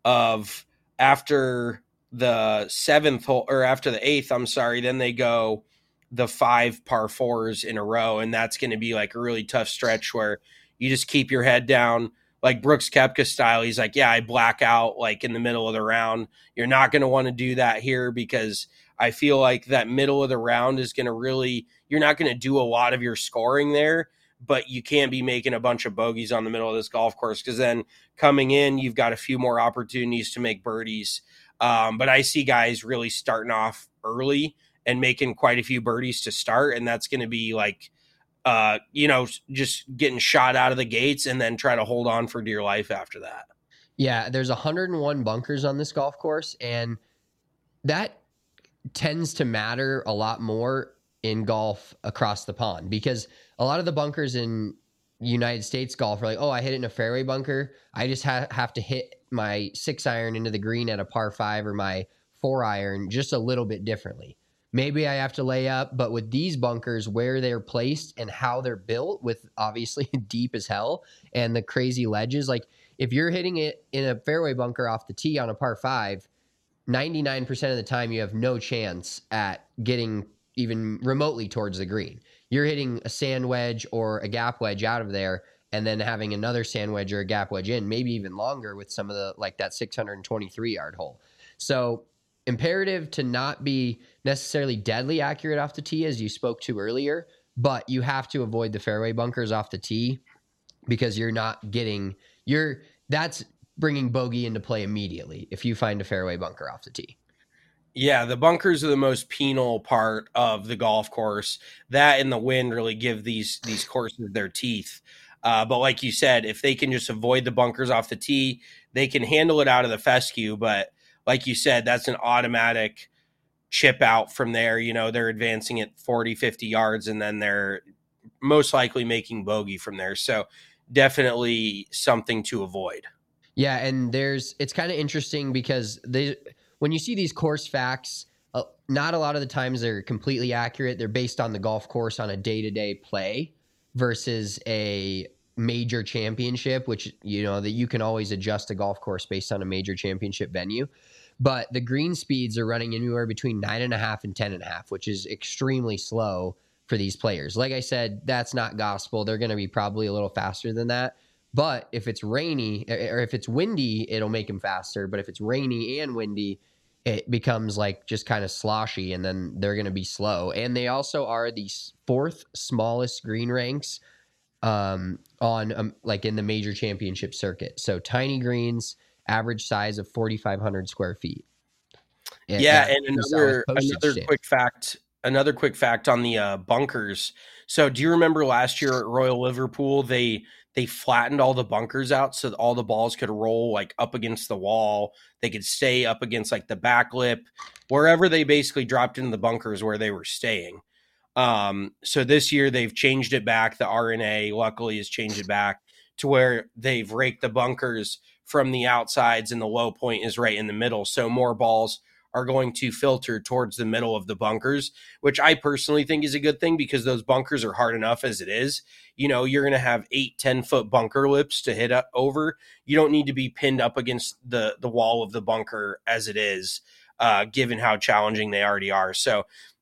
of after the seventh hole, or after the eighth, I'm sorry, then they go the five par fours in a row. And that's going to be like a really tough stretch where you just keep your head down, like Brooks Koepka style. He's like, yeah, I black out like in the middle of the round. You're not going to want to do that here, because I feel like that middle of the round is going to really, you're not going to do a lot of your scoring there, but you can't be making a bunch of bogeys on the middle of this golf course, because then coming in, you've got a few more opportunities to make birdies. Um, but I see guys really starting off early and making quite a few birdies to start. And that's going to be like, uh, you know, just getting shot out of the gates and then try to hold on for dear life after that. Yeah, there's one hundred one bunkers on this golf course, and that tends to matter a lot more in golf across the pond, because a lot of the bunkers in United States golf are like, oh, I hit it in a fairway bunker. I just ha- have to hit my six iron into the green at a par five, or my four iron just a little bit differently. Maybe I have to lay up, but with these bunkers, where they're placed and how they're built, with obviously deep as hell and the crazy ledges, like if you're hitting it in a fairway bunker off the tee on a par five, ninety-nine percent of the time you have no chance at getting even remotely towards the green. You're hitting a sand wedge or a gap wedge out of there, and then having another sand wedge or a gap wedge in, maybe even longer with some of the, like that six hundred twenty-three yard hole. So imperative to not be necessarily deadly accurate off the tee, as you spoke to earlier, but you have to avoid the fairway bunkers off the tee, because you're not getting, you're, that's bringing bogey into play immediately if you find a fairway bunker off the tee. Yeah, the bunkers are the most penal part of the golf course. That and the wind really give these these courses their teeth. Uh, but like you said, if they can just avoid the bunkers off the tee, they can handle it out of the fescue. But like you said, that's an automatic chip out from there. You know, they're advancing at forty, fifty yards, and then they're most likely making bogey from there. So definitely something to avoid. Yeah, and there's it's kind of interesting because they when you see these course facts, uh, not a lot of the times they're completely accurate. They're based on the golf course on a day-to-day play versus a major championship, which, you know, that you can always adjust a golf course based on a major championship venue. But the green speeds are running anywhere between nine and a half and ten and a half, which is extremely slow for these players. Like I said, that's not gospel. They're going to be probably a little faster than that. But if it's rainy or if it's windy, it'll make them faster. But if it's rainy and windy, it becomes like just kind of sloshy, and then they're going to be slow. And they also are the fourth smallest green ranks um, on um, like in the major championship circuit. So tiny greens, average size of forty-five hundred square feet. And yeah, and another another stamp. quick fact, another quick fact on the uh, bunkers. So do you remember last year at Royal Liverpool, they they flattened all the bunkers out so that all the balls could roll like up against the wall. They could stay up against like the back lip, wherever they basically dropped into the bunkers where they were staying. Um, so this year they've changed it back. The R N A luckily has changed it back to where they've raked the bunkers from the outsides and the low point is right in the middle. So more balls are going to filter towards the middle of the bunkers, which I personally think is a good thing because those bunkers are hard enough as it is. You know, you're going to have eight, ten foot bunker lips to hit up over. You don't need to be pinned up against the, the wall of the bunker as it is, uh, given how challenging they already are. So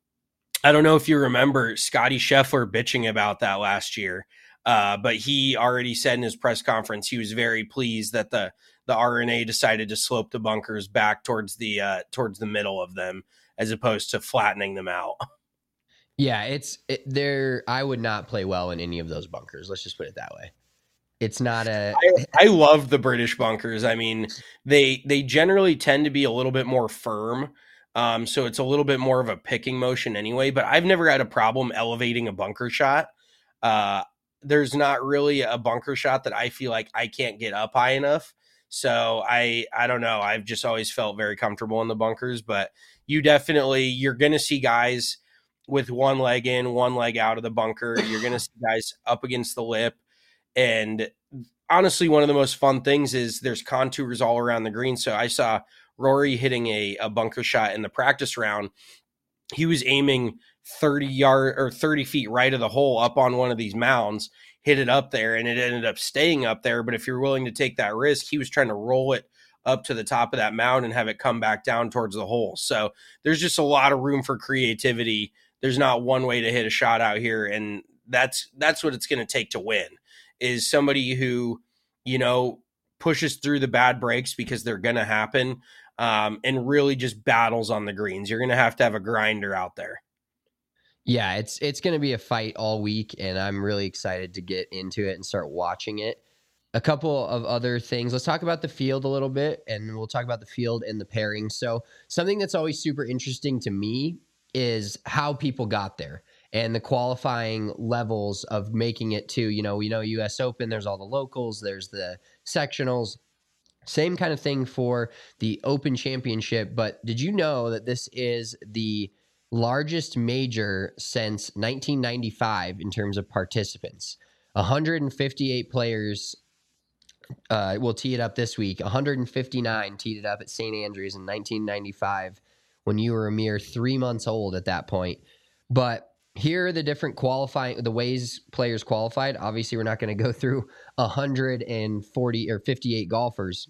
I don't know if you remember Scotty Scheffler bitching about that last year. Uh, but he already said in his press conference he was very pleased that the the R N A decided to slope the bunkers back towards the uh, towards the middle of them as opposed to flattening them out. Yeah, it's it, there. I would not play well in any of those bunkers. Let's just put it that way. It's not a. I, I love the British bunkers. I mean, they they generally tend to be a little bit more firm. Um, so it's a little bit more of a picking motion anyway. But I've never had a problem elevating a bunker shot. Uh, there's not really a bunker shot that I feel like I can't get up high enough. So I, I don't know. I've just always felt very comfortable in the bunkers, but you definitely, you're going to see guys with one leg in, one leg out of the bunker. You're going to see guys up against the lip. And honestly, one of the most fun things is there's contours all around the green. So I saw Rory hitting a, a bunker shot in the practice round. He was aiming thirty yard or thirty feet right of the hole up on one of these mounds, hit it up there, and it ended up staying up there. But if you're willing to take that risk, he was trying to roll it up to the top of that mound and have it come back down towards the hole. So there's just a lot of room for creativity. There's not one way to hit a shot out here. And that's, that's what it's going to take to win, is somebody who, you know, pushes through the bad breaks because they're going to happen, um, and really just battles on the greens. You're going to have to have a grinder out there. Yeah, it's it's going to be a fight all week, and I'm really excited to get into it and start watching it. A couple of other things. Let's talk about the field a little bit, and we'll talk about the field and the pairing. So something that's always super interesting to me is how people got there and the qualifying levels of making it to, you know, you know, U S Open, there's all the locals, there's the sectionals. Same kind of thing for the Open Championship, but did you know that this is the largest major since nineteen ninety-five in terms of participants? one hundred fifty-eight players uh, will tee it up this week. one hundred fifty-nine teed it up at Saint Andrews in nineteen ninety-five when you were a mere three months old at that point. But here are the different qualifying, the ways players qualified. Obviously, we're not going to go through one hundred forty or fifty-eight golfers.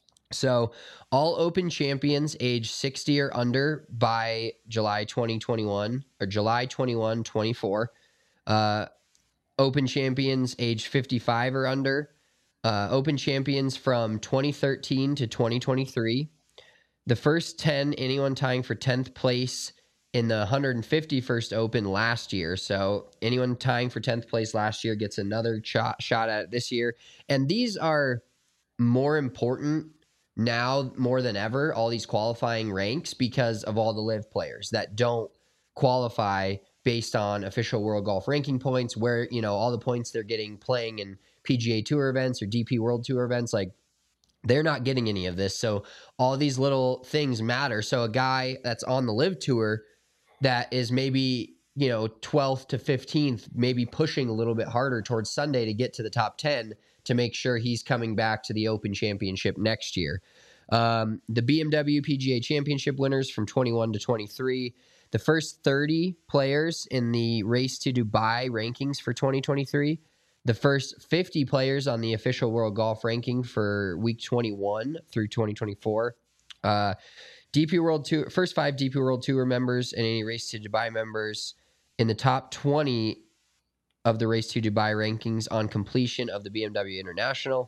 So all Open champions age sixty or under by July twenty twenty-one or July twenty-one twenty-four. Uh, Open champions age fifty-five or under. Uh, Open champions from twenty thirteen to twenty twenty-three. The first ten, anyone tying for tenth place in the one hundred fifty-first Open last year. So anyone tying for tenth place last year gets another shot, shot at it this year. And these are more important now more than ever, all these qualifying ranks, because of all the live players that don't qualify based on official World Golf Ranking points, where, you know, all the points they're getting playing in P G A Tour events or D P World Tour events, like they're not getting any of this. So all these little things matter. So a guy that's on the live tour that is maybe, you know, twelfth to fifteenth, maybe pushing a little bit harder towards Sunday to get to the top ten to make sure he's coming back to the Open Championship next year. Um, the B M W P G A Championship winners from twenty-one to twenty-three. The first thirty players in the Race to Dubai rankings for twenty twenty-three, the first fifty players on the official world golf ranking for week twenty-one through twenty twenty-four. Uh, D P World Tour, first five D P World Tour members and any Race to Dubai members in the top twenty of the Race to Dubai rankings on completion of the B M W International.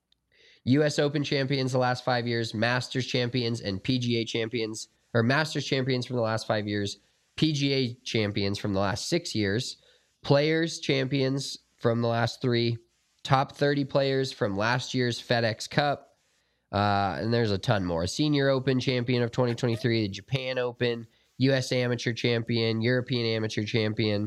U S Open champions the last five years, Masters champions, and P G A champions, or Masters champions from the last five years, P G A champions from the last six years, Players champions from the last three, top thirty players from last year's FedEx Cup, uh, and there's a ton more. Senior Open champion of twenty twenty-three, the Japan Open, U S Amateur champion, European Amateur champion,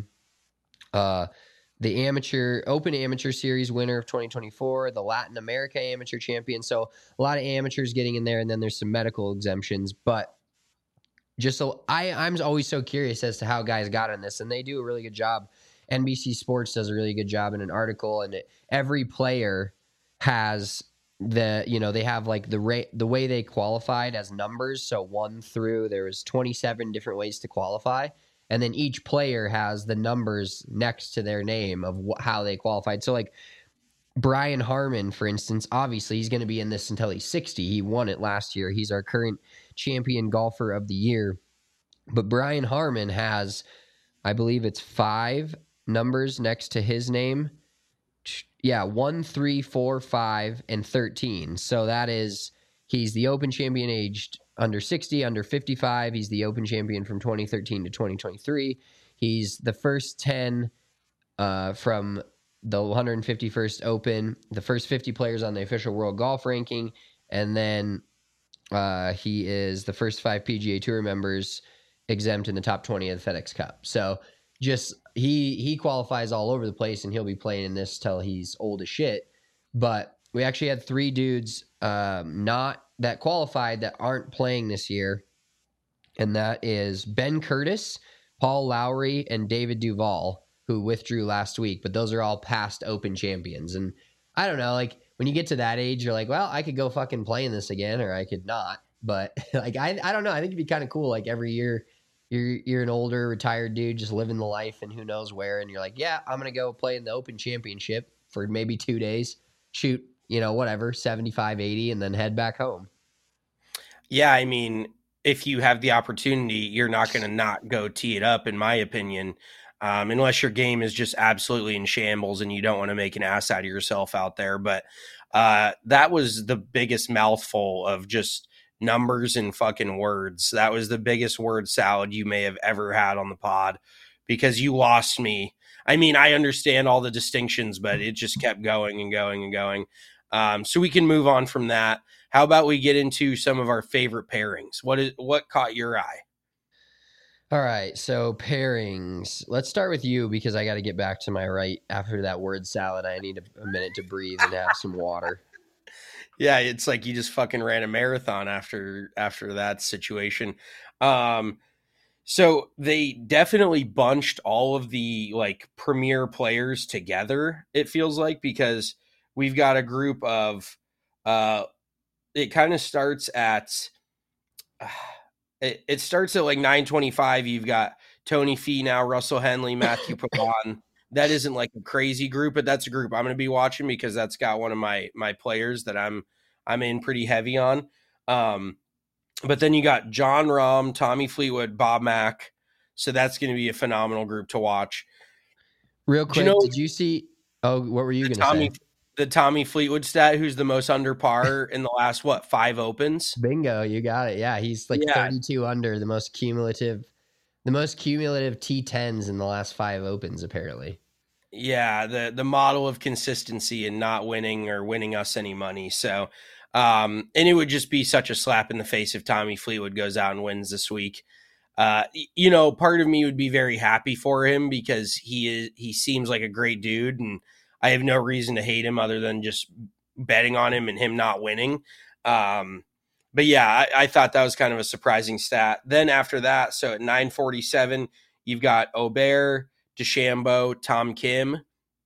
uh, the Amateur Open Amateur Series winner of twenty twenty-four, the Latin America Amateur champion. So a lot of amateurs getting in there, and then there's some medical exemptions. But just so I, I'm always so curious as to how guys got in this, and they do a really good job. N B C Sports does a really good job in an article, and it, every player has the, you know, they have like the rate, the way they qualified as numbers. So one through, there was twenty-seven different ways to qualify. And then each player has the numbers next to their name of wh- how they qualified. So like Brian Harman, for instance, obviously he's going to be in this until he's sixty. He won it last year. He's our current champion golfer of the year. But Brian Harman has, I believe it's five numbers next to his name. Yeah, one, three, four, five, and thirteen. So that is, he's the Open champion aged under sixty, under fifty-five. He's the Open champion from twenty thirteen to twenty twenty-three. He's the first ten uh, from the one hundred fifty-first Open, the first fifty players on the official world golf ranking, and then uh, he is the first five P G A Tour members exempt in the top twenty of the FedEx Cup. So just he he qualifies all over the place, and he'll be playing in this till he's old as shit. But we actually had three dudes um, not that qualified that aren't playing this year, and that is Ben Curtis, Paul Lowry, and David Duval, who withdrew last week. But those are all past Open champions. And I don't know, like when you get to that age, you're like, well, I could go fucking play in this again, or I could not. But like I I don't know, I think it'd be kind of cool. Like every year you're you're an older retired dude just living the life and who knows where, and you're like, yeah, I'm gonna go play in the Open Championship for maybe two days, shoot, you know, whatever, seventy-five, eighty, and then head back home. Yeah, I mean, if you have the opportunity, you're not going to not go tee it up, in my opinion, um, unless your game is just absolutely in shambles and you don't want to make an ass out of yourself out there. But uh, that was the biggest mouthful of just numbers and fucking words. That was the biggest word salad you may have ever had on the pod, because you lost me. I mean, I understand all the distinctions, but it just kept going and going and going. Um, so we can move on from that. How about we get into some of our favorite pairings? What is what caught your eye? All right, so pairings. Let's start with you, because I got to get back to my right after that word salad. I need a, a minute to breathe and have some water. Yeah, it's like you just fucking ran a marathon after after that situation. Um, so they definitely bunched all of the like premier players together, it feels like, because we've got a group of uh it kind of starts at uh, it, it starts at like nine twenty-five. You've got Tony Finau, Russell Henley, Matthew Pavon. That isn't like a crazy group, but that's a group I'm going to be watching because that's got one of my my players that I'm I'm in pretty heavy on. Um, but then you got Jon Rahm, Tommy Fleetwood, Bob Mack. So that's going to be a phenomenal group to watch. Real quick, you know, did you see? Oh, what were you going to say? The Tommy Fleetwood stat, who's the most under par in the last, what, five Opens? Bingo, you got it. Yeah, he's like yeah. thirty-two under, the most cumulative, the most cumulative T tens in the last five Opens, apparently. Yeah, the the model of consistency and not winning or winning us any money. So, um, and it would just be such a slap in the face if Tommy Fleetwood goes out and wins this week. Uh, you know, part of me would be very happy for him because he is he seems like a great dude, and I have no reason to hate him other than just betting on him and him not winning. Um, but yeah, I, I thought that was kind of a surprising stat. Then after that, so at nine forty-seven, you've got Aubert, DeChambeau, Tom Kim,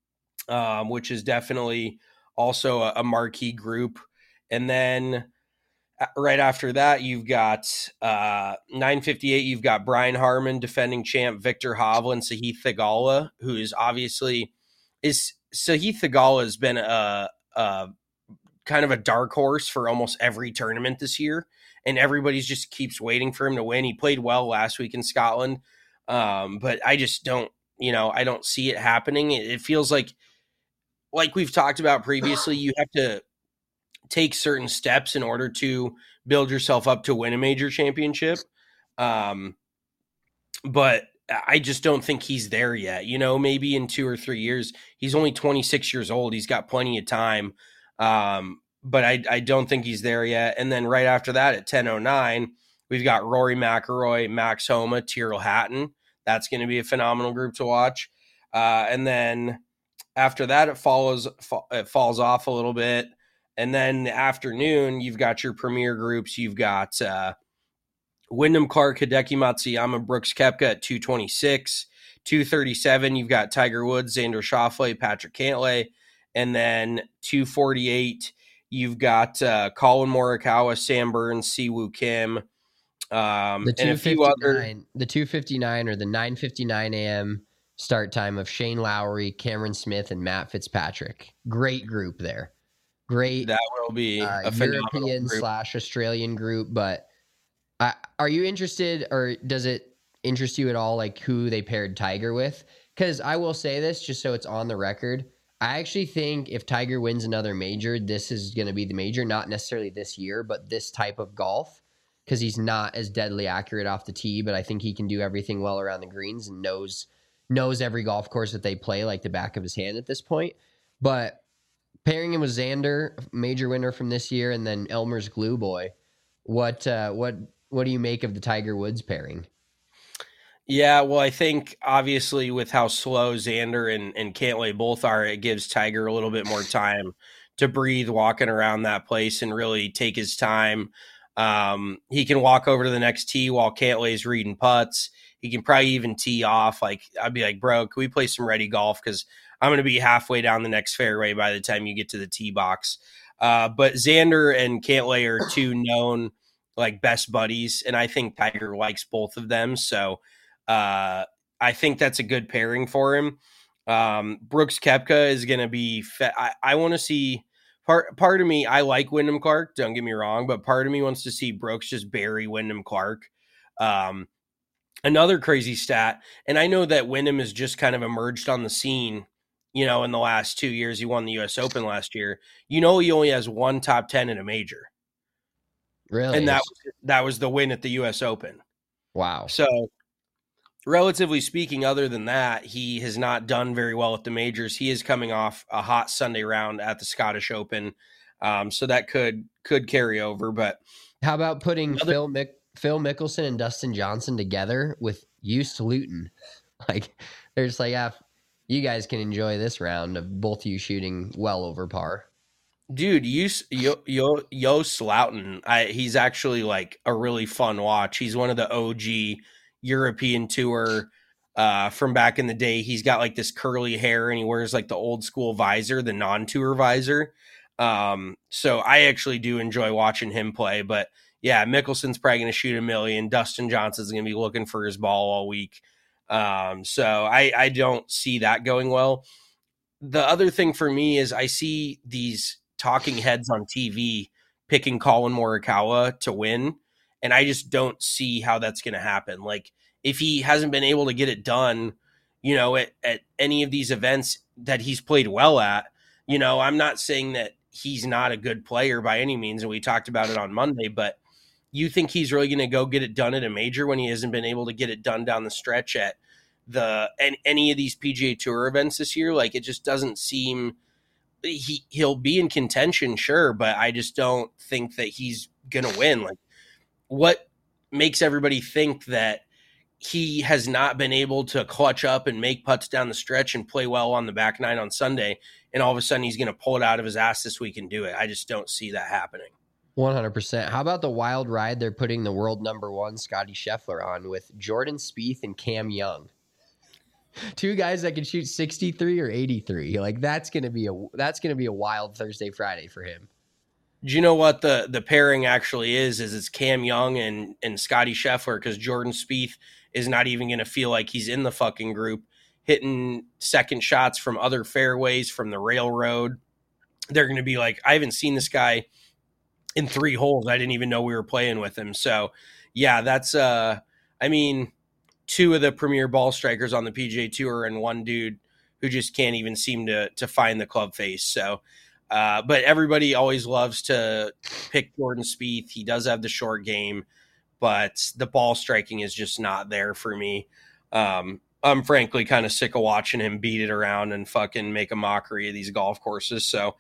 um, which is definitely also a, a marquee group. And then right after that, you've got uh, nine fifty-eight, you've got Brian Harman, defending champ, Victor Hovland, Sahith Theegala, who is obviously is Sahith Theegala has been a, a kind of a dark horse for almost every tournament this year, and everybody's just keeps waiting for him to win. He played well last week in Scotland, um, but I just don't, you know, I don't see it happening. It, it feels like, like we've talked about previously, you have to take certain steps in order to build yourself up to win a major championship. Um, but I just don't think he's there yet. You know, maybe in two or three years, he's only twenty-six years old. He's got plenty of time. Um, but I, I don't think he's there yet. And then right after that at ten oh nine, we've got Rory McIlroy, Max Homa, Tyrrell Hatton. That's going to be a phenomenal group to watch. Uh, and then after that, it follows, it falls off a little bit. And then the afternoon, you've got your premier groups. You've got uh, Wyndham Clark, Hideki Matsuyama, Brooks Koepka at two twenty-six. two thirty-seven, you've got Tiger Woods, Xander Schauffele, Patrick Cantlay. And then two forty-eight, you've got uh, Colin Morikawa, Sam Burns, Siwoo Kim. Um, The and a few other. the two fifty-nine or the nine fifty-nine a.m. start time of Shane Lowry, Cameron Smith, and Matt Fitzpatrick. Great group there. Great. That will be uh, a phenomenal European group. slash Australian group. But uh, are you interested, or does it interest you at all, like who they paired Tiger with? Because I will say this, just so it's on the record, I actually think if Tiger wins another major, this is going to be the major, not necessarily this year, but this type of golf, because he's not as deadly accurate off the tee, but I think he can do everything well around the greens and knows knows every golf course that they play like the back of his hand at this point. But pairing him with Xander, major winner from this year, and then Elmer's glue boy, what uh, what what do you make of the Tiger Woods pairing? Yeah, well, I think obviously with how slow Xander and, and Cantlay both are, it gives Tiger a little bit more time to breathe walking around that place and really take his time. Um, he can walk over to the next tee while Cantlay's reading putts. He can probably even tee off. Like, I'd be like, bro, can we play some ready golf? Because I'm going to be halfway down the next fairway by the time you get to the tee box. Uh, but Xander and Cantlay are two known like best buddies, and I think Tiger likes both of them. So uh, I think that's a good pairing for him. Um, Brooks Koepka is going to be. Fe- I, I want to see. Part part of me, I like Wyndham Clark. Don't get me wrong, but part of me wants to see Brooks just bury Wyndham Clark. Um, another crazy stat, and I know that Wyndham has just kind of emerged on the scene. You know, in the last two years, he won the U S Open last year. You know, he only has one top ten in a major. Really? And that was, that was the win at the U S Open. Wow. So, relatively speaking, other than that, he has not done very well at the majors. He is coming off a hot Sunday round at the Scottish Open. Um, so that could could carry over. But how about putting another- Phil Mick, Phil Mickelson and Dustin Johnson together with Hughes Luton? Like, they're just like, yeah, you guys can enjoy this round of both of you shooting well over par. Dude, Yost Yo, Yo, Yost Luton, I, he's actually like a really fun watch. He's one of the O G European Tour uh, from back in the day. He's got like this curly hair and he wears like the old school visor, the non-tour visor. Um, so I actually do enjoy watching him play. But yeah, Mickelson's probably going to shoot a million. Dustin Johnson's going to be looking for his ball all week. Um, so I, I don't see that going well. The other thing for me is I see these talking heads on T V picking Colin Morikawa to win, and I just don't see how that's going to happen. Like, if he hasn't been able to get it done, you know, at, at any of these events that he's played well at, you know, I'm not saying that he's not a good player by any means, and we talked about it on Monday, but you think he's really going to go get it done at a major when he hasn't been able to get it done down the stretch at the and any of these P G A Tour events this year? Like, it just doesn't seem he he'll be in contention, sure, but I just don't think that he's gonna win. Like, what makes everybody think that he has not been able to clutch up and make putts down the stretch and play well on the back nine on Sunday, and all of a sudden he's gonna pull it out of his ass this week and do it? I just don't see that happening. one hundred percent. How about the wild ride they're putting the world number one Scotty Scheffler on with Jordan Spieth and Cam Young? Two guys that can shoot sixty-three or eighty-three. Like, that's gonna be a that's gonna be a wild Thursday, Friday for him. Do you know what the the pairing actually is? Is it's Cam Young and and Scotty Scheffler, because Jordan Spieth is not even going to feel like he's in the fucking group. hitting second shots from other fairways, from the railroad. They're going to be like, I haven't seen this guy in three holes. I didn't even know we were playing with him. So, yeah, that's, uh, I mean, two of the premier ball strikers on the P G A Tour and one dude who just can't even seem to to find the club face. So, uh, but everybody always loves to pick Jordan Spieth. He does have the short game, but the ball striking is just not there for me. Um, I'm frankly kind of sick of watching him beat it around and fucking make a mockery of these golf courses. So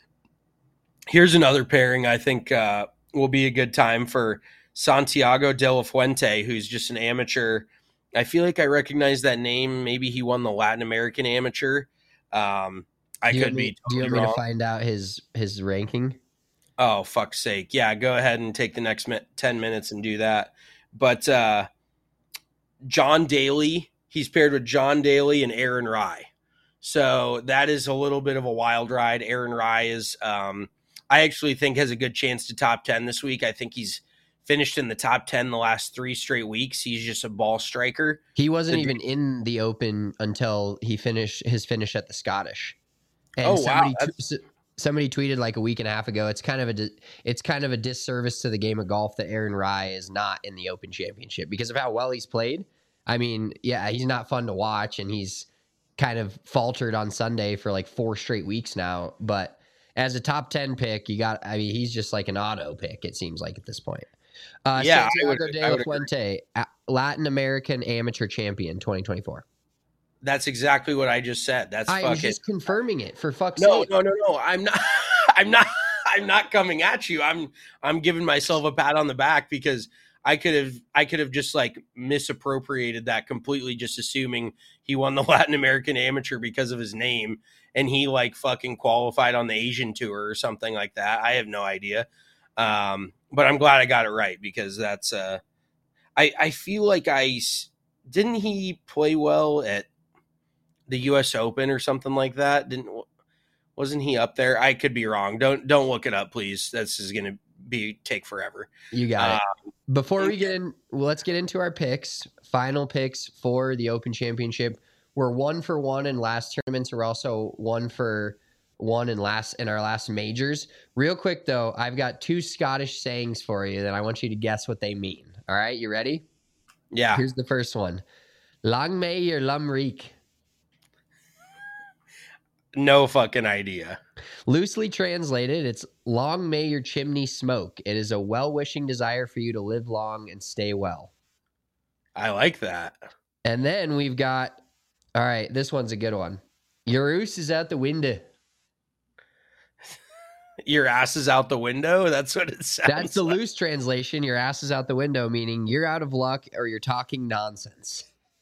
here's another pairing I think uh, will be a good time for Santiago De La Fuente, who's just an amateur. I feel like I recognize that name. Maybe he won the Latin American Amateur. Um, I do you could want me, be totally Do you want me wrong. to find out his his ranking? Oh, fuck's sake. Yeah, go ahead and take the next ten minutes and do that. But uh, John Daly, he's paired with John Daly and Aaron Rai. So that is a little bit of a wild ride. Aaron Rai is, um, I actually think, has a good chance to top ten this week. I think he's finished in the top ten the last three straight weeks. He's just a ball striker. He wasn't The- even in the Open until he finished his finish at the Scottish. And Oh, wow, somebody, that's- t- somebody tweeted like a week and a half ago. It's kind of a di- it's kind of a disservice to the game of golf that Aaron Rai is not in the Open Championship because of how well he's played. I mean, yeah, he's not fun to watch, and he's kind of faltered on Sunday for like four straight weeks now. But as a top ten pick, you got. I mean, he's just like an auto pick. It seems like at this point. Uh, Yeah, I would- Santiago I De La would agree. Fuente, a- Latin American Amateur Champion, twenty twenty-four. That's exactly what I just said. That's I fucking was just confirming it for fuck's no, sake. no, no, no. I'm not. I'm not. I'm not coming at you. I'm. I'm giving myself a pat on the back because I could have. I could have just like misappropriated that completely, just assuming he won the Latin American Amateur because of his name, and he like fucking qualified on the Asian Tour or something like that. I have no idea. Um, but I'm glad I got it right because that's. Uh, I I feel like I s- didn't he play well at the U S Open or something like that? Didn't wasn't he up there? I could be wrong. Don't don't look it up, please. This is gonna be take forever. You got Uh, it. Before we get in, well, let's get into our picks. Final picks for the Open Championship. We're one for one in last tournaments. We're also one for one in last in our last majors. Real quick though, I've got two Scottish sayings for you that I want you to guess what they mean. All right, you ready? Yeah. Here's the first one. Lang may your lum reek. No fucking idea. Loosely translated, it's long may your chimney smoke. It is a well-wishing desire for you to live long and stay well. I like that. And then we've got, all right, this one's a good one. Your oos is out the window. Your ass is out the window. That's what it sounds That's the like. loose translation. Your ass is out the window, meaning you're out of luck or you're talking nonsense.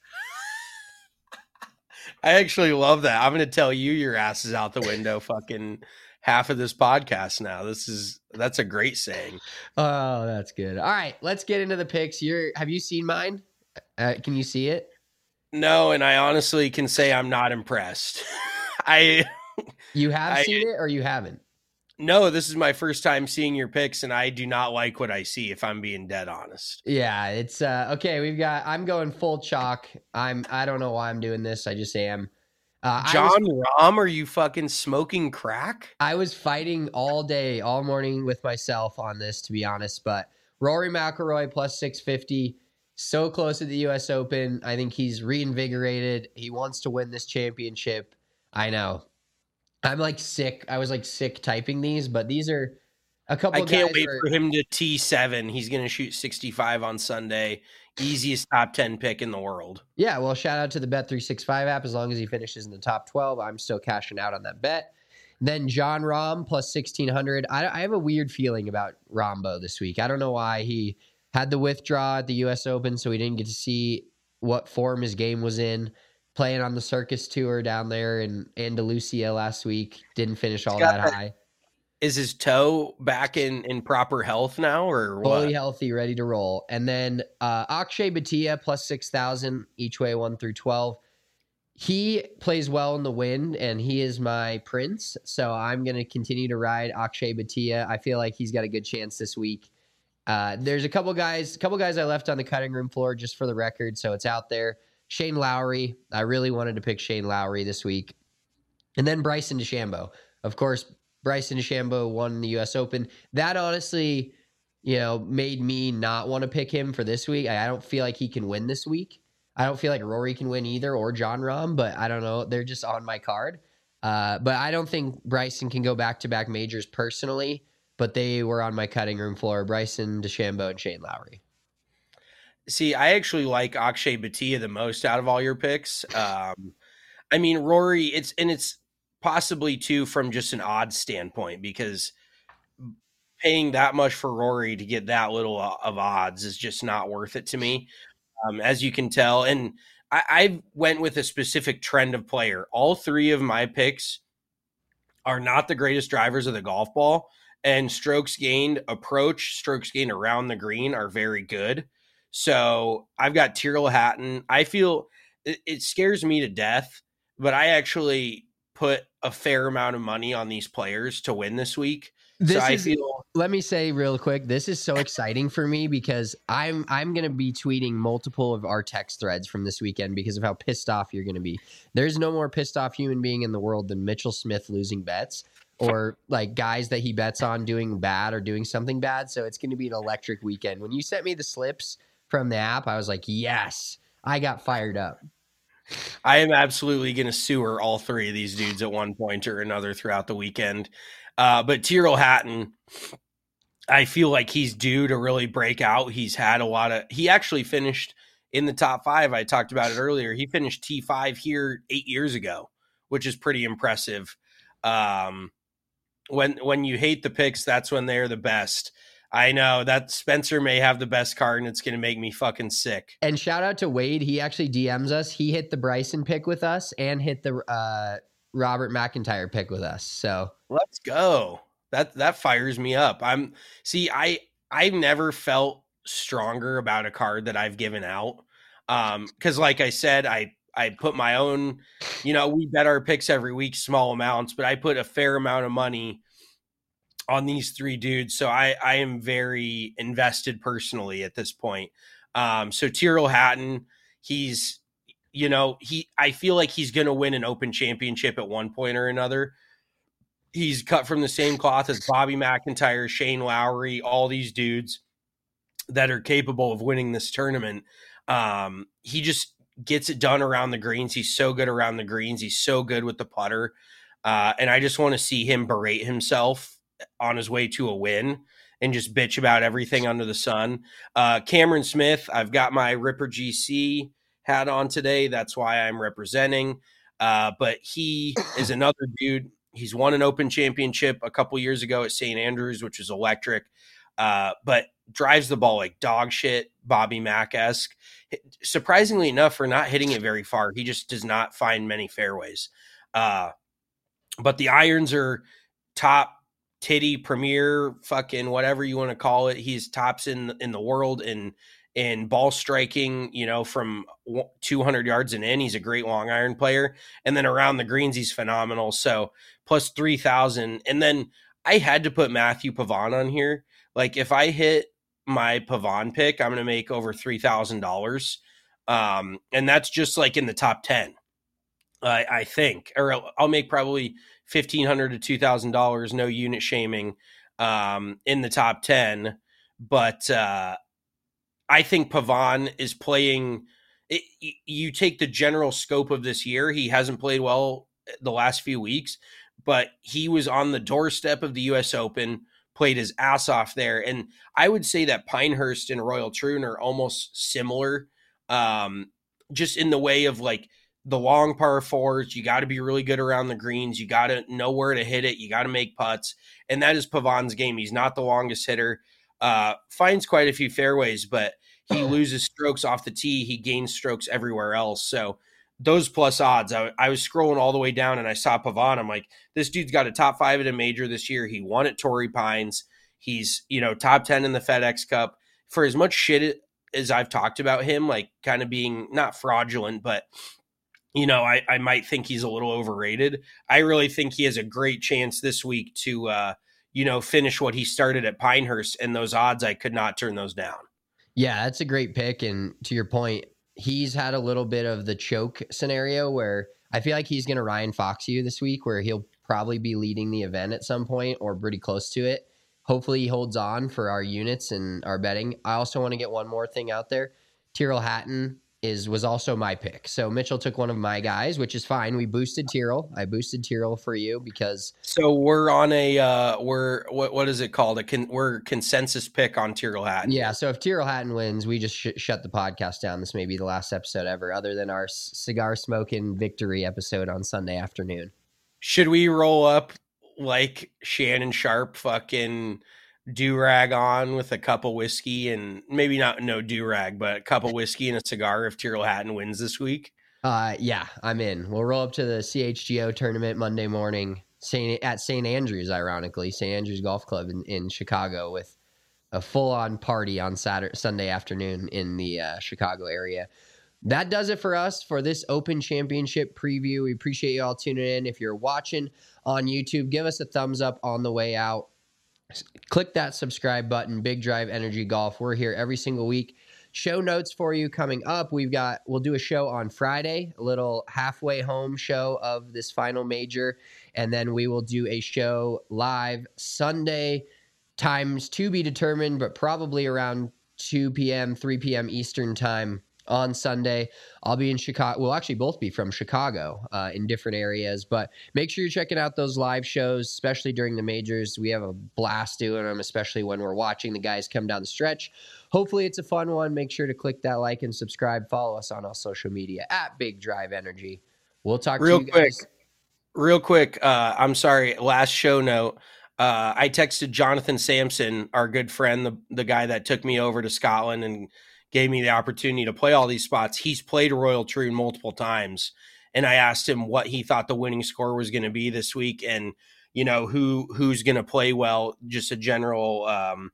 I actually love that. I'm going to tell you your ass is out the window fucking half of this podcast now. This is, that's a great saying. Oh, that's good. All right, let's get into the picks. You're, have you seen mine? Uh, can you see it? No, and I honestly can say I'm not impressed. I You have I- seen it or you haven't? no, this is my first time seeing your picks, and I do not like what I see, if I'm being dead honest. Yeah, it's uh okay. We've got. I'm going full chalk. I'm. I don't know why I'm doing this. I just am. Uh, I was, John Rahm, are you fucking smoking crack? I was fighting all day, all morning with myself on this, to be honest. But Rory McIlroy plus six fifty, so close to the U S Open. I think he's reinvigorated. He wants to win this championship. I know. I'm like sick. I was like sick typing these, but these are a couple. I can't guys wait where- for him to T seven. He's going to shoot sixty-five on Sunday. Easiest top ten pick in the world. Yeah, well, shout out to the Bet three sixty-five app. As long as he finishes in the top twelve, I'm still cashing out on that bet. Then John Rahm plus sixteen hundred. I, I have a weird feeling about Rombo this week. I don't know why. He had the withdraw at the U S Open, so we didn't get to see what form his game was in. Playing on the Circus Tour down there in Andalusia last week. Didn't finish all got that that- high. Is his toe back in, in proper health now, or what? Fully healthy, ready to roll. And then uh, Akshay Bhatia plus six thousand each way, one through twelve. He plays well in the wind, and he is my prince. So I'm going to continue to ride Akshay Bhatia. I feel like he's got a good chance this week. Uh, there's a couple guys, a couple guys I left on the cutting room floor just for the record, so it's out there. Shane Lowry. I really wanted to pick Shane Lowry this week. And then Bryson DeChambeau. Of course, Bryson DeChambeau won the U S Open. That honestly, you know, made me not want to pick him for this week. I, I don't feel like he can win this week. I don't feel like Rory can win either, or Jon Rahm, but I don't know. They're just on my card. Uh, but I don't think Bryson can go back-to-back majors personally, but they were on my cutting room floor. Bryson DeChambeau and Shane Lowry. See, I actually like Akshay Bhatia the most out of all your picks. Um, I mean, Rory, it's and it's possibly too from just an odds standpoint, because paying that much for Rory to get that little of odds is just not worth it to me, um, as you can tell. And I, I went with a specific trend of player. All three of my picks are not the greatest drivers of the golf ball, and strokes gained approach, strokes gained around the green are very good. So I've got Tyrrell Hatton. I feel it, it scares me to death, but I actually put a fair amount of money on these players to win this week. This so I is, feel. Let me say real quick, this is so exciting for me because I'm I'm gonna be tweeting multiple of our text threads from this weekend because of how pissed off you're gonna be. There's no more pissed off human being in the world than Mitchell Smith losing bets, or like guys that he bets on doing bad or doing something bad. So it's gonna be an electric weekend. When you sent me the slips from the app, I was like, yes, I got fired up. I am absolutely going to sewer all three of these dudes at one point or another throughout the weekend. Uh, but Tyrrell Hatton, I feel like he's due to really break out. He's had a lot of, he actually finished in the top five. I talked about it earlier. He finished T five here eight years ago, which is pretty impressive. Um, when, when you hate the picks, that's when they're the best. I know that Spencer may have the best card and it's going to make me fucking sick. And shout out to Wade. He actually D Ms us. He hit the Bryson pick with us and hit the uh, Robert McIntyre pick with us. So let's go. That, that fires me up. I'm see, I, I've never felt stronger about a card that I've given out. Um, cause like I said, I, I put my own, you know, we bet our picks every week, small amounts, but I put a fair amount of money on these three dudes. So I, I am very invested personally at this point. Um, so Tyrrell Hatton, he's, you know, he, I feel like he's going to win an Open Championship at one point or another. He's cut from the same cloth as Bobby McIntyre, Shane Lowry, all these dudes that are capable of winning this tournament. Um, he just gets it done around the greens. He's so good around the greens. He's so good with the putter. Uh, and I just want to see him berate himself on his way to a win and just bitch about everything under the sun. Uh, Cameron Smith, I've got my Ripper G C hat on today. That's why I'm representing. Uh, but he is another dude. He's won an Open Championship a couple years ago at Saint Andrews, which is electric, uh, but drives the ball like dog shit, Bobby Mack-esque. Surprisingly enough, for not hitting it very far, he just does not find many fairways. Uh, but the irons are top titty premier, fucking whatever you want to call it. He's tops in in the world in in ball striking, you know, from two hundred yards and in. He's a great long iron player, and then around the greens he's phenomenal. So plus three thousand, and then I had to put Matthew Pavon on here. Like if I hit my Pavon pick, I'm going to make over three thousand dollars, um, and that's just like in the top ten. I, I think, or I'll make probably fifteen hundred to two thousand dollars, no unit shaming, um, in the top ten. But uh, I think Pavon is playing. It, you take the general scope of this year. He hasn't played well the last few weeks, but he was on the doorstep of the U S Open, played his ass off there. And I would say that Pinehurst and Royal Troon are almost similar, um, just in the way of like, the long par fours, you got to be really good around the greens. You got to know where to hit it. You got to make putts. And that is Pavon's game. He's not the longest hitter. Uh, finds quite a few fairways, but he loses strokes off the tee. He gains strokes everywhere else. So those plus odds, I, I was scrolling all the way down and I saw Pavon. I'm like, this dude's got a top five at a major this year. He won at Torrey Pines. He's, you know, top ten in the FedEx Cup. For as much shit as I've talked about him, like kind of being not fraudulent, but you know, I, I might think he's a little overrated. I really think he has a great chance this week to, uh, you know, finish what he started at Pinehurst, and those odds, I could not turn those down. Yeah, that's a great pick. And to your point, he's had a little bit of the choke scenario where I feel like he's going to Ryan Fox you this week, where he'll probably be leading the event at some point or pretty close to it. Hopefully he holds on for our units and our betting. I also want to get one more thing out there. Tyrrell Hatton is was also my pick. So Mitchell took one of my guys, which is fine. We boosted Tyrrell. I boosted Tyrrell for you because so we're on a uh, we're what what is it called? A con, we're consensus pick on Tyrrell Hatton. Yeah. So if Tyrrell Hatton wins, we just sh- shut the podcast down. This may be the last episode ever, other than our cigar smoking victory episode on Sunday afternoon. Should we roll up like Shannon Sharp, fucking do-rag on with a cup of whiskey and maybe not no do-rag, but a cup of whiskey and a cigar if Tyrrell Hatton wins this week? Uh, yeah, I'm in. We'll roll up to the C H G O tournament Monday morning Saint at Saint Andrews, ironically, Saint Andrews Golf Club in, in Chicago with a full-on party on Saturday, Sunday afternoon in the uh, Chicago area. That does it for us for this Open Championship preview. We appreciate you all tuning in. If you're watching on YouTube, give us a thumbs up on the way out. Click that subscribe button, Big Drive Energy Golf. We're here every single week. Show notes for you coming up. We've got, we'll do a show on Friday, a little halfway home show of this final major. And then we will do a show live Sunday, times to be determined, but probably around two p.m., three p.m. Eastern time on Sunday. I'll be in Chicago. We'll actually both be from Chicago uh, in different areas, but make sure you're checking out those live shows, especially during the majors. We have a blast doing them, especially when we're watching the guys come down the stretch. Hopefully it's a fun one. Make sure to click that like and subscribe. Follow us on all social media at Big Drive Energy. We'll talk real to you quick, guys. Real quick. Uh, I'm sorry. Last show note. Uh, I texted Jonathan Sampson, our good friend, the, the guy that took me over to Scotland and gave me the opportunity to play all these spots. He's played Royal Troon multiple times. And I asked him what he thought the winning score was going to be this week. And, you know, who, who's going to play well, just a general, um,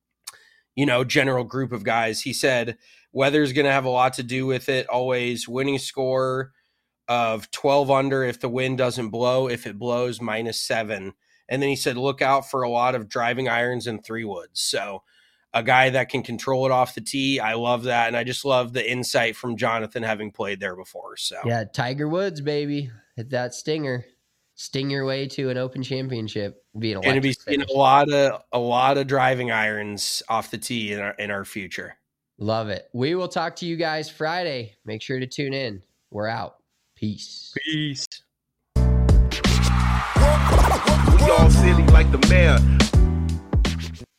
you know, general group of guys. He said, weather's going to have a lot to do with it. Always winning score of twelve under. If the wind doesn't blow, if it blows, minus seven. And then he said, look out for a lot of driving irons and three woods. So, a guy that can control it off the tee. I love that. And I just love the insight from Jonathan having played there before. So yeah, Tiger Woods, baby. Hit that stinger. Sting your way to an Open Championship. Be an going to be seeing a lot of a lot of driving irons off the tee in our in our future. Love it. We will talk to you guys Friday. Make sure to tune in. We're out. Peace. Peace. We all silly like the mayor.